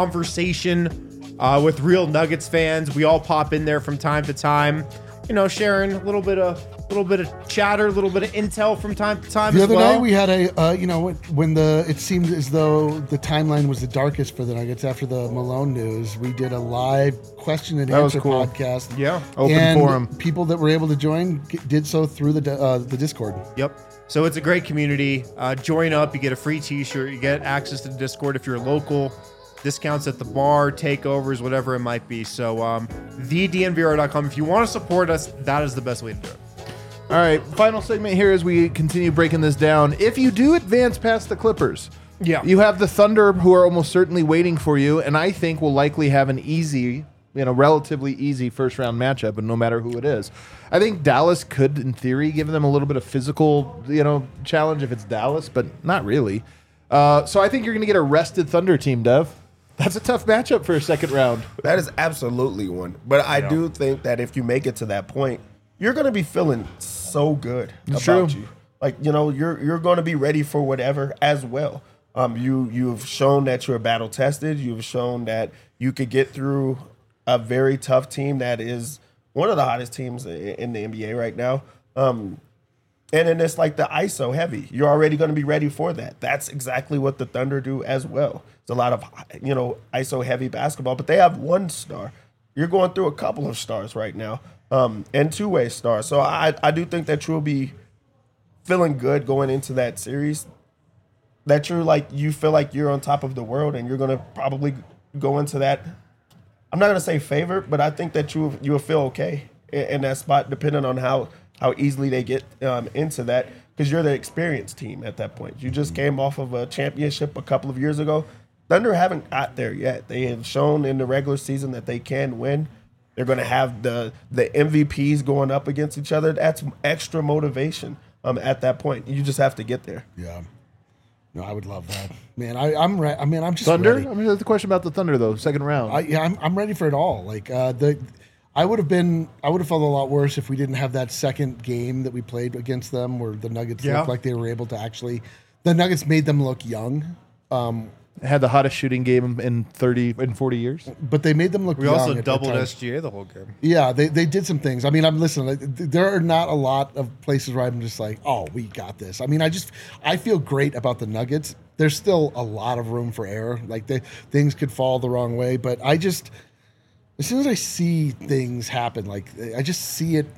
conversation uh, with real Nuggets fans. We all pop in there from time to time, you know, sharing a little bit of little bit of chatter, a little bit of intel from time to time. The as other well. night we had a, uh, you know, when- when the it seemed as though the timeline was the darkest for the Nuggets after the Malone news. We did a live question and That was answer cool. podcast. Yeah. Open and forum. People that were able to join g- did so through the di- uh, the Discord. Yep. So it's a great community. Uh, join up. You get a free T-shirt. You get access to the Discord if you're local. Discounts at the bar, takeovers, whatever it might be. So um, the D N V R dot com. If you want to support us, that is the best way to do it. All right, final segment here as we continue breaking this down. If you do advance past the Clippers, Yeah. you have the Thunder, who are almost certainly waiting for you, and I think will likely have an easy, you know, relatively easy first round matchup, and no matter who it is. I think Dallas could, in theory, give them a little bit of physical, you know, challenge if it's Dallas, but not really. Uh, so I think you're going to get a rested Thunder team, Dev. That's a tough matchup for a second round. That is absolutely one. But I do think that if you make it to that point, you're going to be feeling so good It's about true. you. Like, you know, you're you're going to be ready for whatever as well. Um, you you've shown that you're battle tested. You've shown that you could get through a very tough team that is one of the hottest teams i- in the N B A right now. Um, and then it's like the I S O heavy. You're already going to be ready for that. That's exactly what the Thunder do as well. It's a lot of, you know, I S O heavy basketball, but they have one star. You're going through a couple of stars right now, um, and two-way stars. So I, I do think that you'll be feeling good going into that series. That you're like, you feel like you're on top of the world, and you're going to probably go into that. I'm not going to say favorite, but I think that you you'll feel okay in, in that spot, depending on how how easily they get um, into that, because you're the experienced team at that point. You just came off of a championship a couple of years ago. Thunder haven't got there yet. They have shown in the regular season that they can win. They're going to have the the M V Ps going up against each other. That's extra motivation um, at that point. You just have to get there. Yeah. No, I would love that, man. I, I'm re- I mean, I'm just Thunder? ready. I mean, that's the question about the Thunder, though, second round. I, yeah, I'm, I'm ready for it all. Like uh, the, I would have been, I would have felt a lot worse if we didn't have that second game that we played against them, where the Nuggets Yeah. looked like they were able to actually. The Nuggets made them look young, um, Had the hottest shooting game in thirty in forty years. but they made them look. We young also at- at doubled times. S G A the whole game. Yeah, they, they did some things. I mean, I'm listening. like, th- There are not a lot of places where I'm just like, oh, we got this. I mean, I just I feel great about the Nuggets. There's still a lot of room for error. Like they, things could fall the wrong way, but I just as soon as I see things happen, like I just see it,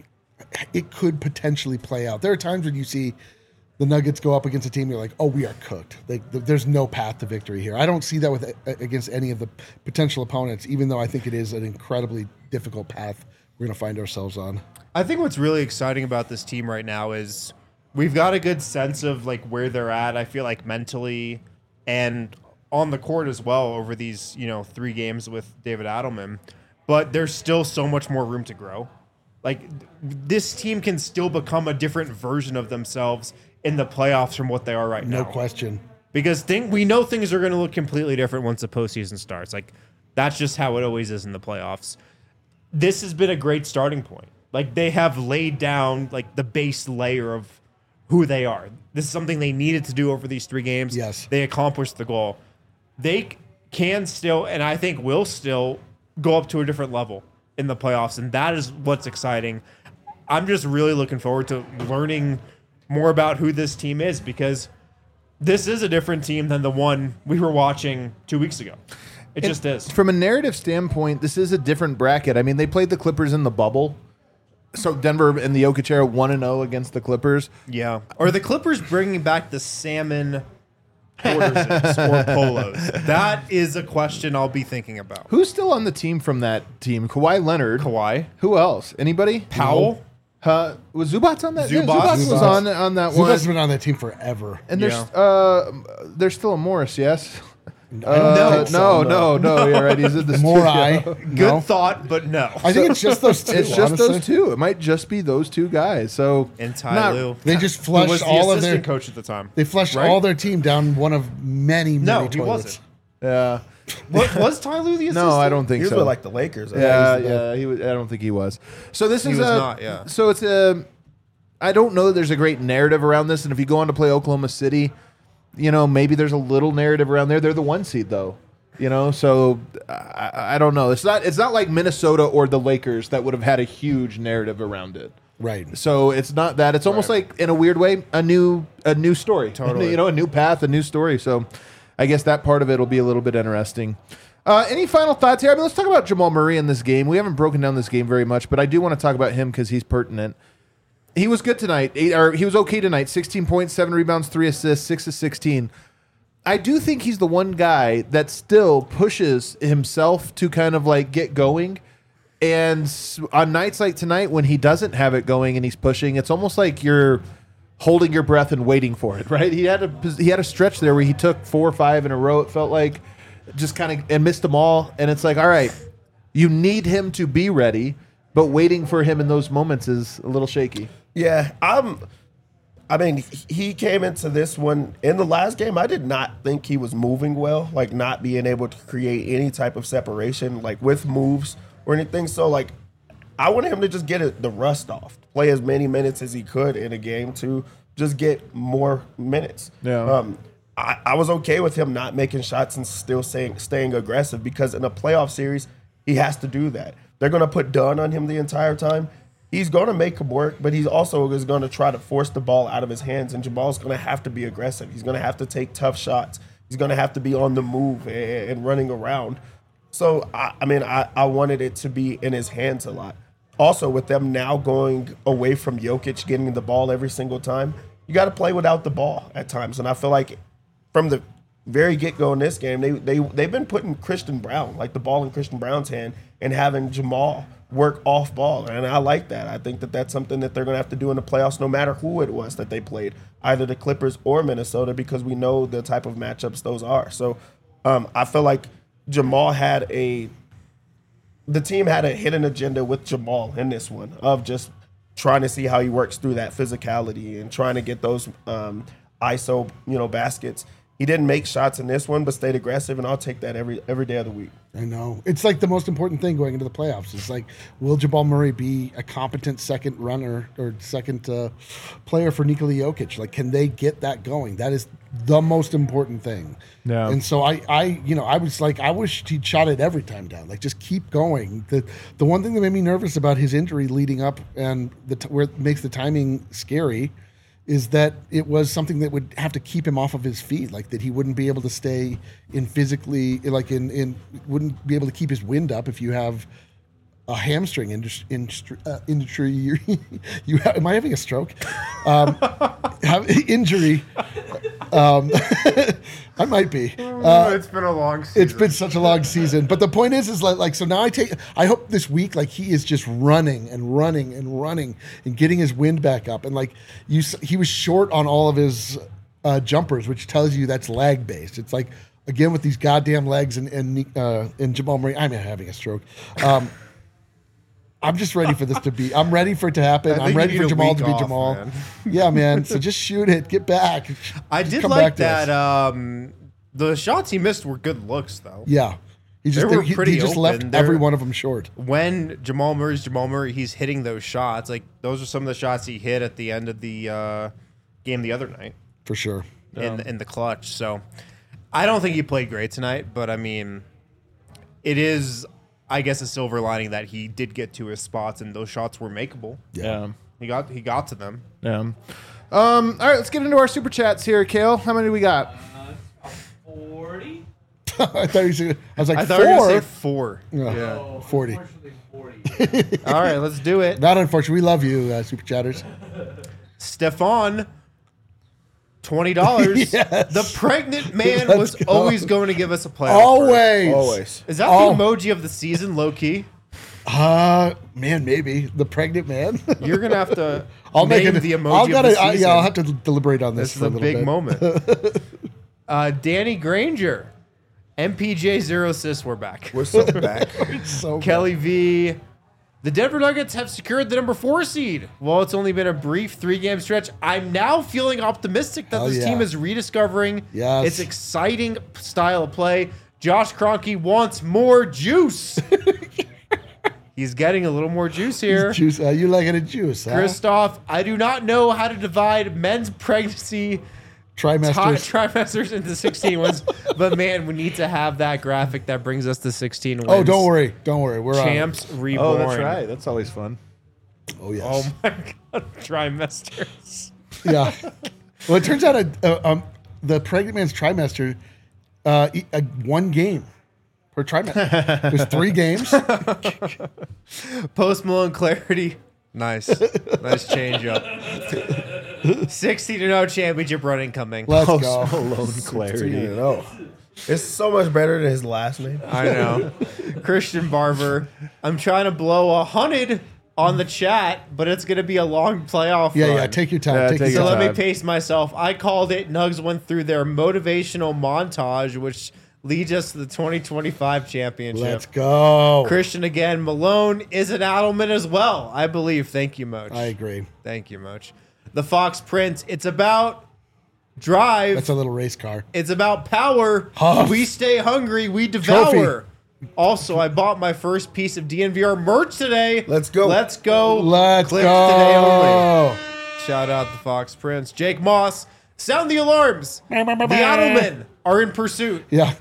it could potentially play out. There are times when you see the Nuggets go up against a team, you're like, oh, we are cooked. Like th- there's no path to victory here. I don't see that with against any of the potential opponents, even though I think it is an incredibly difficult path we're going to find ourselves on. I think what's really exciting about this team right now is we've got a good sense of like where they're at. I feel like mentally and on the court as well over these, you know, three games with David Adelman. But there's still so much more room to grow. Like th- this team can still become a different version of themselves in the playoffs from what they are right No now. question. because thing, we know things are going to look completely different once the postseason starts. Like, that's just how it always is in the playoffs. This has been a great starting point. Like, they have laid down like the base layer of who they are. This is something they needed to do over these three games. Yes. They accomplished the goal. They can still, and I think will still, go up to a different level in the playoffs, and that is what's exciting. I'm just really looking forward to learning more about who this team is, because this is a different team than the one we were watching two weeks ago. It just is. From a narrative standpoint, this is a different bracket. I mean, they played the Clippers in the bubble. So Denver in the Jokic era one and oh against the Clippers. Yeah. Or the Clippers bringing back the salmon quarters or polos. That is a question I'll be thinking about. Who's still on the team from that team? Kawhi Leonard. Kawhi. Who else? Anybody? Powell. Uh, was Zubats on that? Yeah, Zubats. Zubats was Zubats. on on that one. Zubac's been on that team forever. And there's Yeah. uh, there's still a Morris, yes. I Uh, don't no, think so, no, no, yeah, right. He's in the Morai. studio. Good No. thought, but no. I think it's just those two. It's just honestly. those two. It might just be those two guys. So And Ty not- Lue. They just Who was flushed the all of their. assistant coach at the time. They flushed Right? all their team down one of many, many No, he toilets. wasn't. Yeah. What, was Ty Lue the assistant? No, I don't think He was so. with like the Lakers. I Yeah, think. yeah, he was, I don't think he was. So this He is was a, not, yeah. So it's a. I don't know that there's a great narrative around this, and if you go on to play Oklahoma City, you know maybe there's a little narrative around there. They're the one seed though, you know. So I, I don't know. It's not. It's not like Minnesota or the Lakers that would have had a huge narrative around it. Right. So it's not that. It's almost Right. like in a weird way a new a new story. Totally. You know, a new path, a new story. So I guess that part of it will be a little bit interesting. Uh, any final thoughts here? I mean, let's talk about Jamal Murray in this game. We haven't broken down this game very much, but I do want to talk about him because he's pertinent. He was good tonight. Eight, or he was okay tonight. sixteen points, seven rebounds, three assists, six to sixteen. I do think he's the one guy that still pushes himself to kind of like get going. And s- on nights like tonight, when he doesn't have it going and he's pushing, it's almost like you're holding your breath and waiting for it, right? He had a he had a stretch there where he took four or five in a row. It felt like just kind of and missed them all. And it's like, all right, you need him to be ready, but waiting for him in those moments is a little shaky. Yeah, I'm. I mean, he came into this one in the last game. I did not think he was moving well, like not being able to create any type of separation, like with moves or anything. So, like, I wanted him to just get it, the rust off, play as many minutes as he could in a game to just get more minutes. Yeah. Um, I, I was okay with him not making shots and still saying, staying aggressive because in a playoff series, he has to do that. They're going to put Dunn on him the entire time. He's going to make him work, but he's also is going to try to force the ball out of his hands, and Jamal's going to have to be aggressive. He's going to have to take tough shots. He's going to have to be on the move and, and running around. So, I, I mean, I, I wanted it to be in his hands a lot. Also, with them now going away from Jokic getting the ball every single time, you got to play without the ball at times. And I feel like from the very get-go in this game, they, they, they've been putting Christian Brown, like the ball in Christian Brown's hand, and having Jamal work off ball. And I like that. I think that that's something that they're going to have to do in the playoffs no matter who it was that they played, either the Clippers or Minnesota, because we know the type of matchups those are. So um, I feel like Jamal had a – the team had a hidden agenda with Jamal in this one of just trying to see how he works through that physicality and trying to get those um, I S O, you know, baskets. He didn't make shots in this one, but stayed aggressive, and I'll take that every every day of the week. I know. It's like the most important thing going into the playoffs. It's like, will Jamal Murray be a competent second runner or second uh, player for Nikola Jokic? Like, can they get that going? That is the most important thing. Yeah. And so I, I, you know, I was like, I wish he'd shot it every time down. Like, just keep going. The the one thing that made me nervous about his injury leading up and the t- where it makes the timing scary is that it was something that would have to keep him off of his feet, like that he wouldn't be able to stay in physically, like in, in wouldn't be able to keep his wind up if you have a hamstring industry. industry, uh, industry you have, am I having a stroke? Um, have, injury. Um, I might be. Uh, it's been a long season. it's been such a long season, but the point is, is like, like, so now I take, I hope this week, like he is just running and running and running and getting his wind back up. And like you, s- he was short on all of his uh, jumpers, which tells you that's lag based. It's like, again, with these goddamn legs and, and, uh, and Jamal Murray, I'm having a stroke. Um, I'm just ready for this to be. I'm ready for it to happen. I think I'm you ready need for a Jamal week to be off, Jamal. man. Yeah, man. So just shoot it. Get back. I Just did come like back to us. that. Um, the shots he missed were good looks, though. Yeah. He just They were he, pretty he just open. left They're- every one of them short. When Jamal Murray's Jamal Murray, he's hitting those shots. Like those are some of the shots he hit at the end of the uh, game the other night For sure. in in the clutch. So I don't think he played great tonight, but I mean, it is, I guess, a silver lining that he did get to his spots and those shots were makeable. Yeah. He got he got to them. Yeah. Um, all right, let's get into our super chats here, Kale. How many do we got? Uh, forty? I thought you said, I was like, I thought four. you were gonna say four. Yeah. Yeah. Oh, forty. Unfortunately, forty. All right, let's do it. Not unfortunate. We love you, uh, Super Chatters. Stefan, twenty dollars. Yes. The pregnant man Let's was go. always going to give us a playoff. berth. Always. Always. Is that Oh. the emoji of the season, low key? Uh, man, maybe. The pregnant man. You're gonna have to I'll name make it. the emoji I'll of gotta, the I, season. yeah, I'll have to deliberate on this, This is for a a little big bit. moment. uh, Danny Granger, M P J zero assists. We're back. We're so back. So good. Kelly V. The Denver Nuggets have secured the number four seed. While it's only been a brief three-game stretch, I'm now feeling optimistic that Hell this yeah. team is rediscovering Yes. its exciting style of play. Josh Kroenke wants more juice. He's getting a little more juice here. Juice. Uh, you like it a juice, huh? Christoph, I do not know how to divide men's pregnancy ti- Trimesters. trimesters into sixteen wins, but man, we need to have that graphic that brings us to sixteen wins. oh, don't worry. Don't worry. We're on. Champs reborn. Oh, that's right. That's always fun. Oh, yes. Oh my god, trimesters. Yeah. Well, it turns out a, a, um, the pregnant man's trimester, uh, e- a, one game per trimester. There's three games. Post Malone clarity. Nice. Nice change up. sixty to no championship run incoming. Let's Post go. Malone clarity. No. It's so much better than his last name. I know. Christian Barber. I'm trying to blow a hundred on the chat, but it's gonna be a long playoff Yeah, run. yeah. Take your time. Yeah, take take your So your time. let me time. pace myself. I called it. Nugs went through their motivational montage, which leads us to the twenty twenty-five championship. Let's go. Christian again. Malone is an Adelman as well, I believe. Thank you, Moch. I agree. Thank you, Moch. The Fox Prince. It's about drive. That's a little race car. It's about power. Huff. We stay hungry. We devour. Trophy. Also, I bought my first piece of D N V R merch today. Let's go. Let's go. Let's Clips today only. go. Shout out the Fox Prince. Jake Moss. Sound the alarms. The Adelmen are in pursuit. Yeah.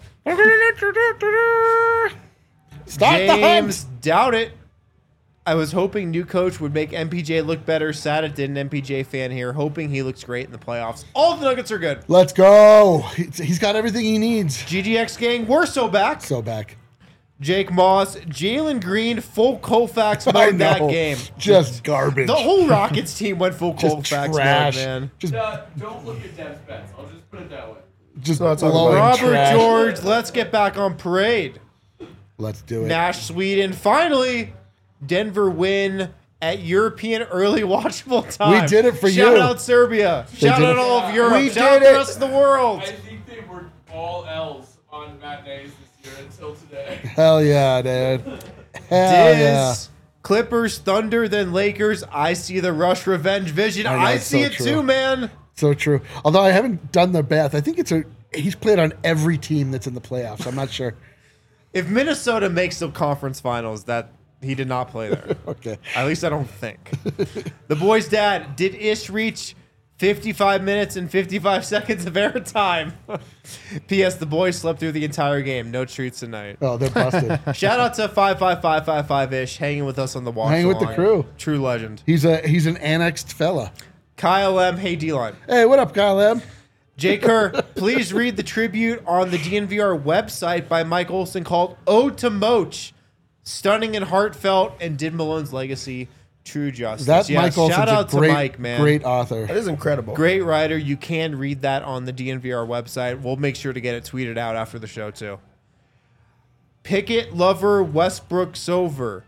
Start the James hunt. doubt it. I was hoping new coach would make M P J look better. Sad it didn't. M P J fan here. Hoping he looks great in the playoffs. All of the Nuggets are good. Let's go. He's he's got everything he needs. G G X gang, we're so back. So back. Jake Moss, Jalen Green, full Colfax I mode that know. game. Just garbage. The whole Rockets team went full Just Colfax trash. mode, man. Just, Uh, don't look at Dev's bets. I'll just put it that way. just not talking blowing about Robert trash. George, let's get back on parade. Let's do it. Nash, Sweden. Finally, Denver win at European early watchable time. We did it for Shout you. out Serbia. Shout did out it. all of Europe. We Shout out did the it. rest of the world. I think they were all L's on matinees this year until today. Hell yeah, dude. Hell Diz, yeah. Clippers, Thunder, then Lakers. I see the Rush Revenge vision. I know, I, it's see so it true. too, man. So true. Although I haven't done the math. I think it's a he's played on every team that's in the playoffs. I'm not sure. If Minnesota makes the conference finals, that he did not play there. Okay. At least I don't think. The boy's dad, did Ish reach fifty-five minutes and fifty-five seconds of airtime? P S. The boys slept through the entire game. No treats tonight. Oh, they're busted. Shout out to five five five five five Ish hanging with us on the watch. Hanging with the along. crew. True legend. He's a he's an annexed fella. Kyle M. Hey, D-Line. Hey, what up, Kyle M? Jay Kerr, please read the tribute on the D N V R website by Mike Olson called Ode to Moch. Stunning and heartfelt, and did Malone's legacy true justice. That Yes, Mike Olson's shout out a great, to Mike, man. great author. That is incredible. Great writer. You can read that on the D N V R website. We'll make sure to get it tweeted out after the show, too. Pickett Lover Westbrook Sover.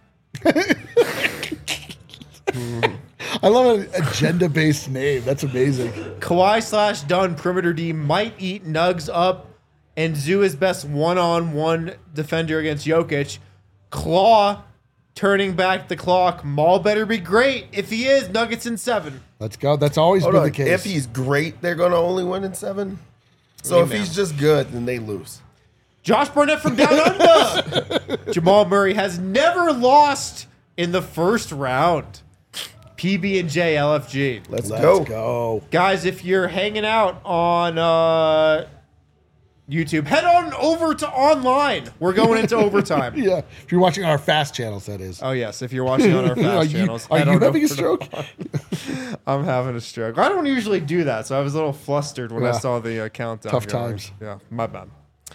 I love an agenda-based name. That's amazing. Kawhi slash Dunn perimeter D might eat Nugs up, and Zoo is best one-on-one defender against Jokic. Claw turning back the clock. Maul better be great. If he is, Nuggets in seven. Let's go. That's always Hold been on. the case. If he's great, they're going to only win in seven? So if Amen. he's just good, then they lose. Josh Barnett from down under. Jamal Murray has never lost in the first round. P B and J L F G. Let's, Let's go. go. Guys, if you're hanging out on uh, YouTube, head on over to online. We're going into overtime. Yeah. If you're watching our fast channels, that is. Oh, yes. If you're watching on our fast are you, channels. are head you on having a over to stroke? I'm having a stroke. I don't usually do that, so I was a little flustered when I Yeah. saw the uh, countdown. Tough going. times. Yeah, my bad.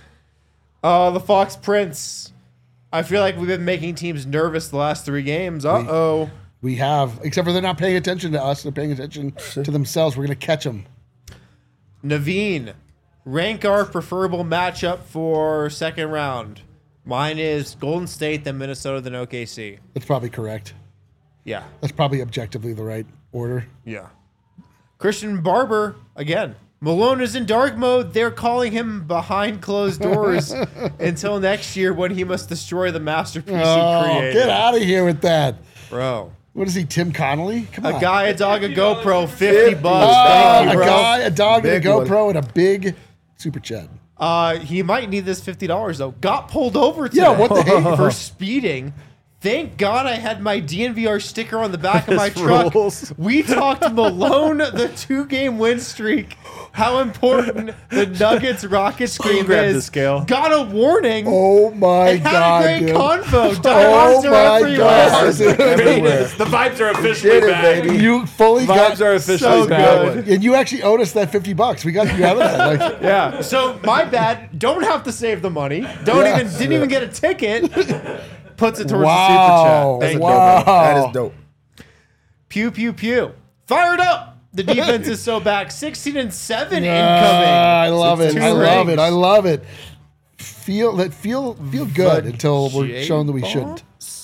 Uh, the Fox Prince. I feel like we've been making teams nervous the last three games. Uh-oh. We have, except for they're not paying attention to us. They're paying attention to themselves. We're going to catch them. Naveen, rank our preferable matchup for second round. Mine is Golden State, then Minnesota, then O K C. That's probably correct. Yeah, That's probably objectively the right order. yeah. Christian Barber, again. Malone is in dark mode. They're calling him behind closed doors until next year when he must destroy the masterpiece he Oh, created. get out of here with that. Bro. What is he, Tim Connolly? Come A on. guy, a dog, a GoPro, fifty bucks. Oh, Thank you, a bro. guy, a dog, and a Big one. GoPro, and a big super chat. Uh, he might need this fifty dollars though. Got pulled over today. Yeah, what the heck? For speeding. Thank God I had my D N V R sticker on the back of my This truck. rules. We talked Malone the two-game win streak. How important the Nuggets Rockets game Grab is. the scale. Got a warning. Oh my and had god, a great dude. convo. Oh Diehards are my everywhere. god. dude. Everywhere. The vibes are officially Did it, back. baby. You fully Vibes got are officially so back. good. and you actually owed us that fifty bucks. We got you out of that. Like, Yeah. So my bad. Don't have to save the money. Don't Yeah. even didn't even get a ticket. Puts it towards Wow. the super chat. Thank you. Wow. That is dope. Pew pew pew. Fired up. The defense is so back. sixteen and seven Ah, incoming. I love it. Two I love rings. it. I love it. Feel that feel feel good until we're J- shown that we shouldn't.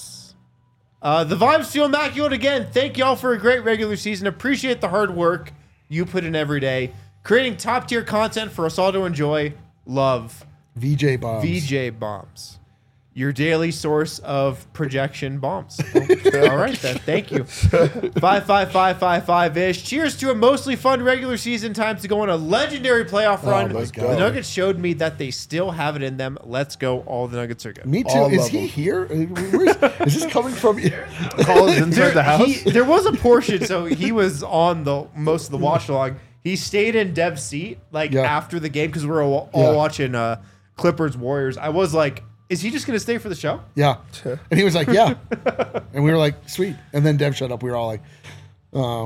Uh, the vibes feel immaculate again. Thank y'all for a great regular season. Appreciate the hard work you put in every day. Creating top tier content for us all to enjoy. Love. V J bombs. V J Bombs. Your daily source of projection bombs. All right, then. Thank you. five five five five five ish. Cheers to a mostly fun regular season. Time to go on a legendary playoff run. my The God. Nuggets showed me that they still have it in them. Let's go. All the Nuggets are good. Me too. All Is of he them. here? Where's, is this coming from? Calls inside the house. He, there was a portion, so he was on the most of the watch log. He stayed in Dev's seat like Yeah. after the game because we were all, all Yeah. watching uh, Clippers Warriors. I was like, is he just going to stay for the show? Yeah. And he was like, yeah. And we were like, sweet. And then Dev shut up. We were all like, oh,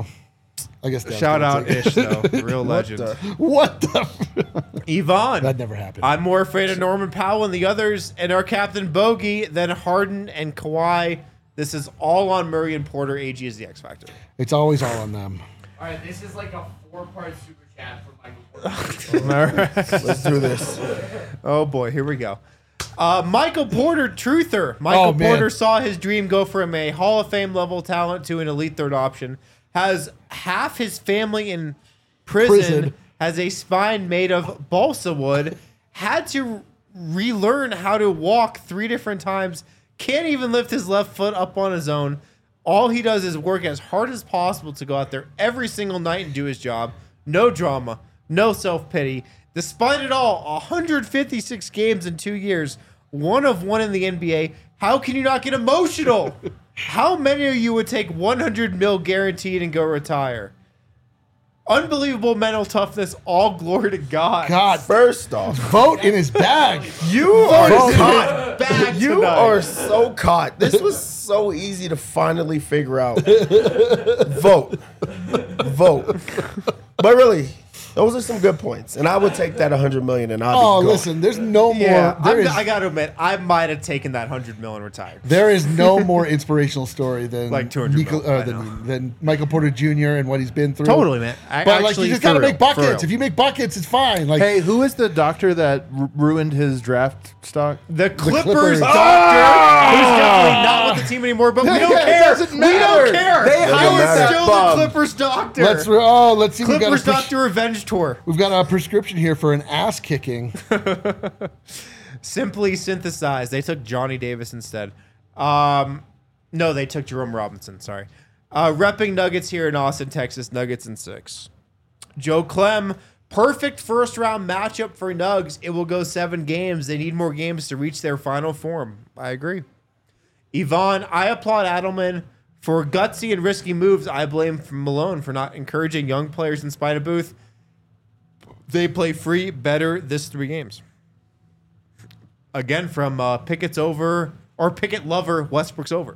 I guess Dev's Shout gonna out take it. Ish though, real legend. the- What the? Yvonne. That never happened. I'm more afraid of Norman Powell and the others and our captain Bogey than Harden and Kawhi. This is all on Murray and Porter. A G is the X factor. It's always all on them. All right, this is like a four-part super chat from Michael Porter. Let's do this. Oh boy, here we go. Uh, Michael Porter, truther. Michael Oh, man. Porter saw his dream go from a Hall of Fame level talent to an elite third option. Has half his family in prison. Prison. Has a spine made of balsa wood. Had to relearn how to walk three different times. Can't even lift his left foot up on his own. All he does is work as hard as possible to go out there every single night and do his job. No drama, no self-pity. Despite it all, one hundred fifty-six games in two years, one of one in the N B A. How can you not get emotional? How many of you would take one hundred mil guaranteed and go retire? Unbelievable mental toughness. All glory to God. God, First off, vote in his bag. you are Vote. caught. Back You tonight. are so caught. This was so easy to finally figure out. Vote. Vote. But really, those are some good points. And I would take that one hundred million and I'd Oh, be gone. listen, there's no more. Yeah, There I'm- is, I got to admit, I might have taken that one hundred mil and retired. there is no more inspirational story than Like two hundred Nico- mil, uh, I know. than, than Michael Porter Junior and what he's been through. Totally, man. I But like, actually, you just for gotta real, make for real. buckets. If you make buckets, it's fine. Like, Hey, who is the doctor that r- ruined his draft stock? The Clippers, Clippers. doctor, who's definitely not with the team anymore, but we Yeah, don't it care. doesn't We matter. don't care. They He hired is that still bum. the Clippers doctor. let's re- oh, let's see. We've got, a Clippers pres- doctor revenge tour. we've got a prescription here for an ass kicking. Simply synthesized. They took Johnny Davis instead. Um, No, they took Jerome Robinson. Sorry. Uh, repping Nuggets here in Austin, Texas. Nuggets in six. Joe Clem. Perfect first round matchup for Nugs. It will go seven games. They need more games to reach their final form. I agree. Yvonne, I applaud Adelman for gutsy and risky moves. I blame Malone for not encouraging young players in spite of Booth. They play free better this three games. Again, from uh, Pickett's over, or Pickett lover, Westbrook's over.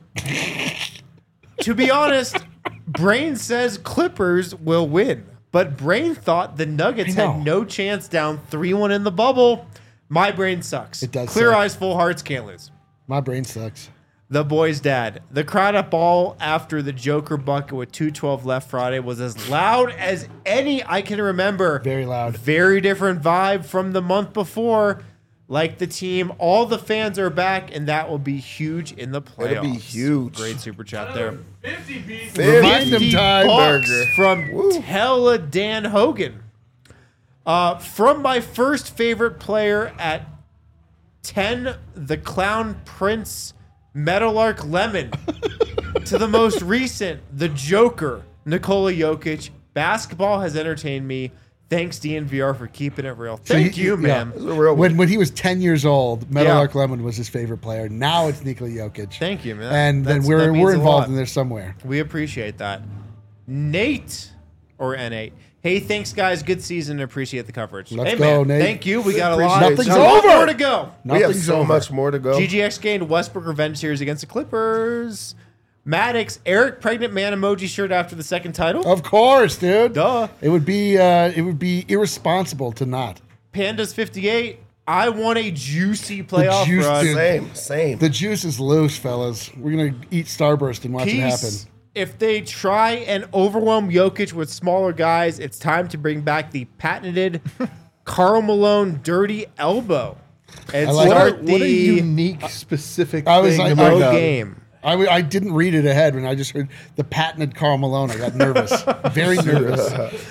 To be honest, Brain says Clippers will win. But Brain thought the Nuggets had no chance down three one in the bubble. My brain sucks. It does Clear suck. eyes, full hearts, can't lose. My brain sucks. The boy's dad. The crowd at ball after the Joker bucket with two twelve left Friday was as loud as any I can remember. Very loud. Very different vibe from the month before. Like the team, all the fans are back, and that will be huge in the playoffs. It'll be huge. Great super chat there. fifty beats. Remind them time. Bucks Burger. from Tella Dan Hogan. Uh, from my first favorite player at ten, the Clown Prince Meadowlark Lemon, to the most recent, the Joker, Nikola Jokic. Basketball has entertained me. Thanks, D N V R, for keeping it real. Thank you- you, yeah. man. It's a real When when he was ten years old, Yeah. Meadowlark Lemon was his favorite player. Now it's Nikola Jokic. Thank you, man. And then That's- we're that means we're a involved lot. in there somewhere. We appreciate that. Nate, or N eight. Hey, thanks, guys. Good season. Appreciate the coverage. Let's hey, go, man. Nate. Thank you. We got a lot. Nothing's a lot over. more to go. We have Nothing's so over. much more to go. G G X gained Westbrook revenge series against the Clippers. Maddox, Eric pregnant man emoji shirt after the second title. Of course, dude. Duh. It would be uh, it would be irresponsible to not. Pandas fifty-eight. I want a juicy playoff juice, run. dude. Same, same. The juice is loose, fellas. We're gonna eat Starburst and watch it happen. Peace. If they try and overwhelm Jokic with smaller guys, it's time to bring back the patented Karl Malone dirty elbow and I like start it. the What a unique, specific I was thing like- to bring I- up. game. I, w- I didn't read it ahead when I just heard the patented Karl Malone. I got nervous, very nervous.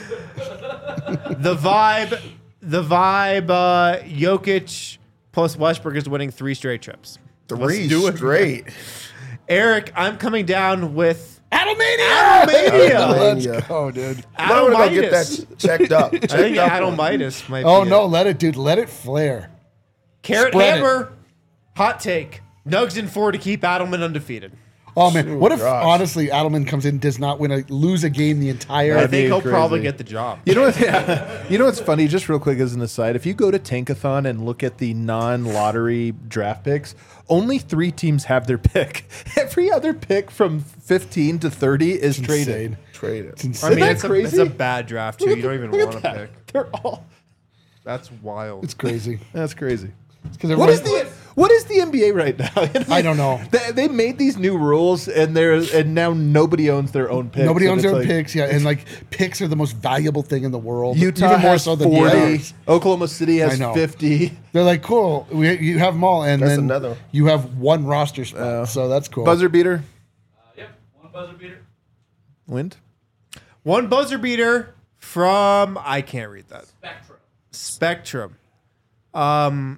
The vibe, the vibe. Uh, Jokic plus Westbrook is winning three straight trips. Three do it. straight. Eric, I'm coming down with Adelmania! Adelmania. Let's Adelmania. go, dude. I'm gonna go get Adelmitis. that checked up. I Checked think up. Adelmitis might Oh be no, it. let it, dude. Let it flare. Carrot Spread it. Hammer, hot take. Nugs in four to keep Adelman undefeated. Oh man, what if gosh. honestly Adelman comes in, does not win a lose a game the entire? I That'd think be he'll crazy. probably get the job. You know what? Yeah. You know what's funny? Just real quick as an aside, if you go to Tankathon and look at the non-lottery draft picks, only three teams have their pick. Every other pick from fifteen to thirty is traded. Insane. Trade It's it. I insane. mean, that it's a, crazy? it's a bad draft too. You don't even Look at want to that. pick. They're all. That's wild. It's crazy. That's crazy. Because What is the What is the N B A right now? I don't know. They, they made these new rules, and they're and now nobody owns their own picks. Nobody and owns it's their own like, picks, yeah, and like picks are the most valuable thing in the world. Utah even more has so than the forty. others. Oklahoma City I has know. fifty. They're like, cool. We, you have them all, and That's then another. you have one roster spot. so that's cool. Buzzer beater. Uh, yep, one buzzer beater. Wind. One buzzer beater from I can't read that. Spectrum. Spectrum. Um,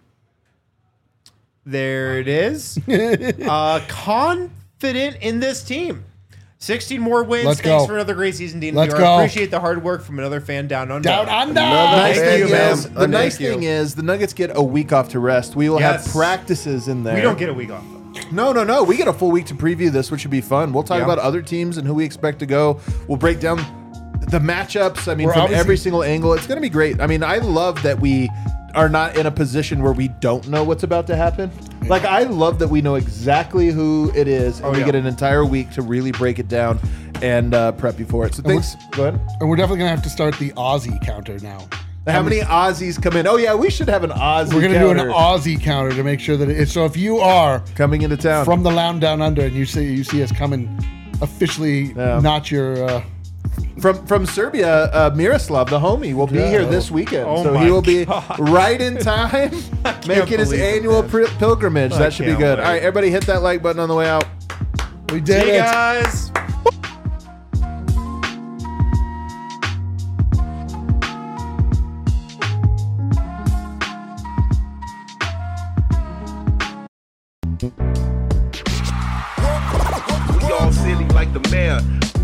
there it is. uh, confident in this team. sixteen more wins. Let's Thanks go. for another great season, D N V R. Let's go. Appreciate the hard work from another fan down under. Down under. Another Nice Thank thing you, man. is, the Thank nice you. thing is the Nuggets get a week off to rest. We will Yes. have practices in there. We don't get a week off though. No, no, no. We get a full week to preview this, which should be fun. We'll talk Yeah. about other teams and who we expect to go. We'll break down the matchups. I mean, We're from obviously- every single angle. It's going to be great. I mean, I love that we are not in a position where we don't know what's about to happen. Like, I love that we know exactly who it is, and Oh, we yeah. get an entire week to really break it down and uh, prep you for it. So thanks. Go ahead. And we're definitely gonna have to start the Aussie counter now. How many Aussies come in? Oh yeah, we should have an Aussie. We're gonna counter do an Aussie counter to make sure that it, so if you are coming into town. from the Lounge Down Under and you see you see us coming, officially Yeah. not your. Uh, From from Serbia, uh, Miroslav, the homie, will be Yeah. here this weekend. Oh so my he will be God. right in time, making his believe it, annual man. pri- pilgrimage. I that should be can't good. wait. All right, everybody hit that like button on the way out. we did Hey it. guys. Philly like the mayor.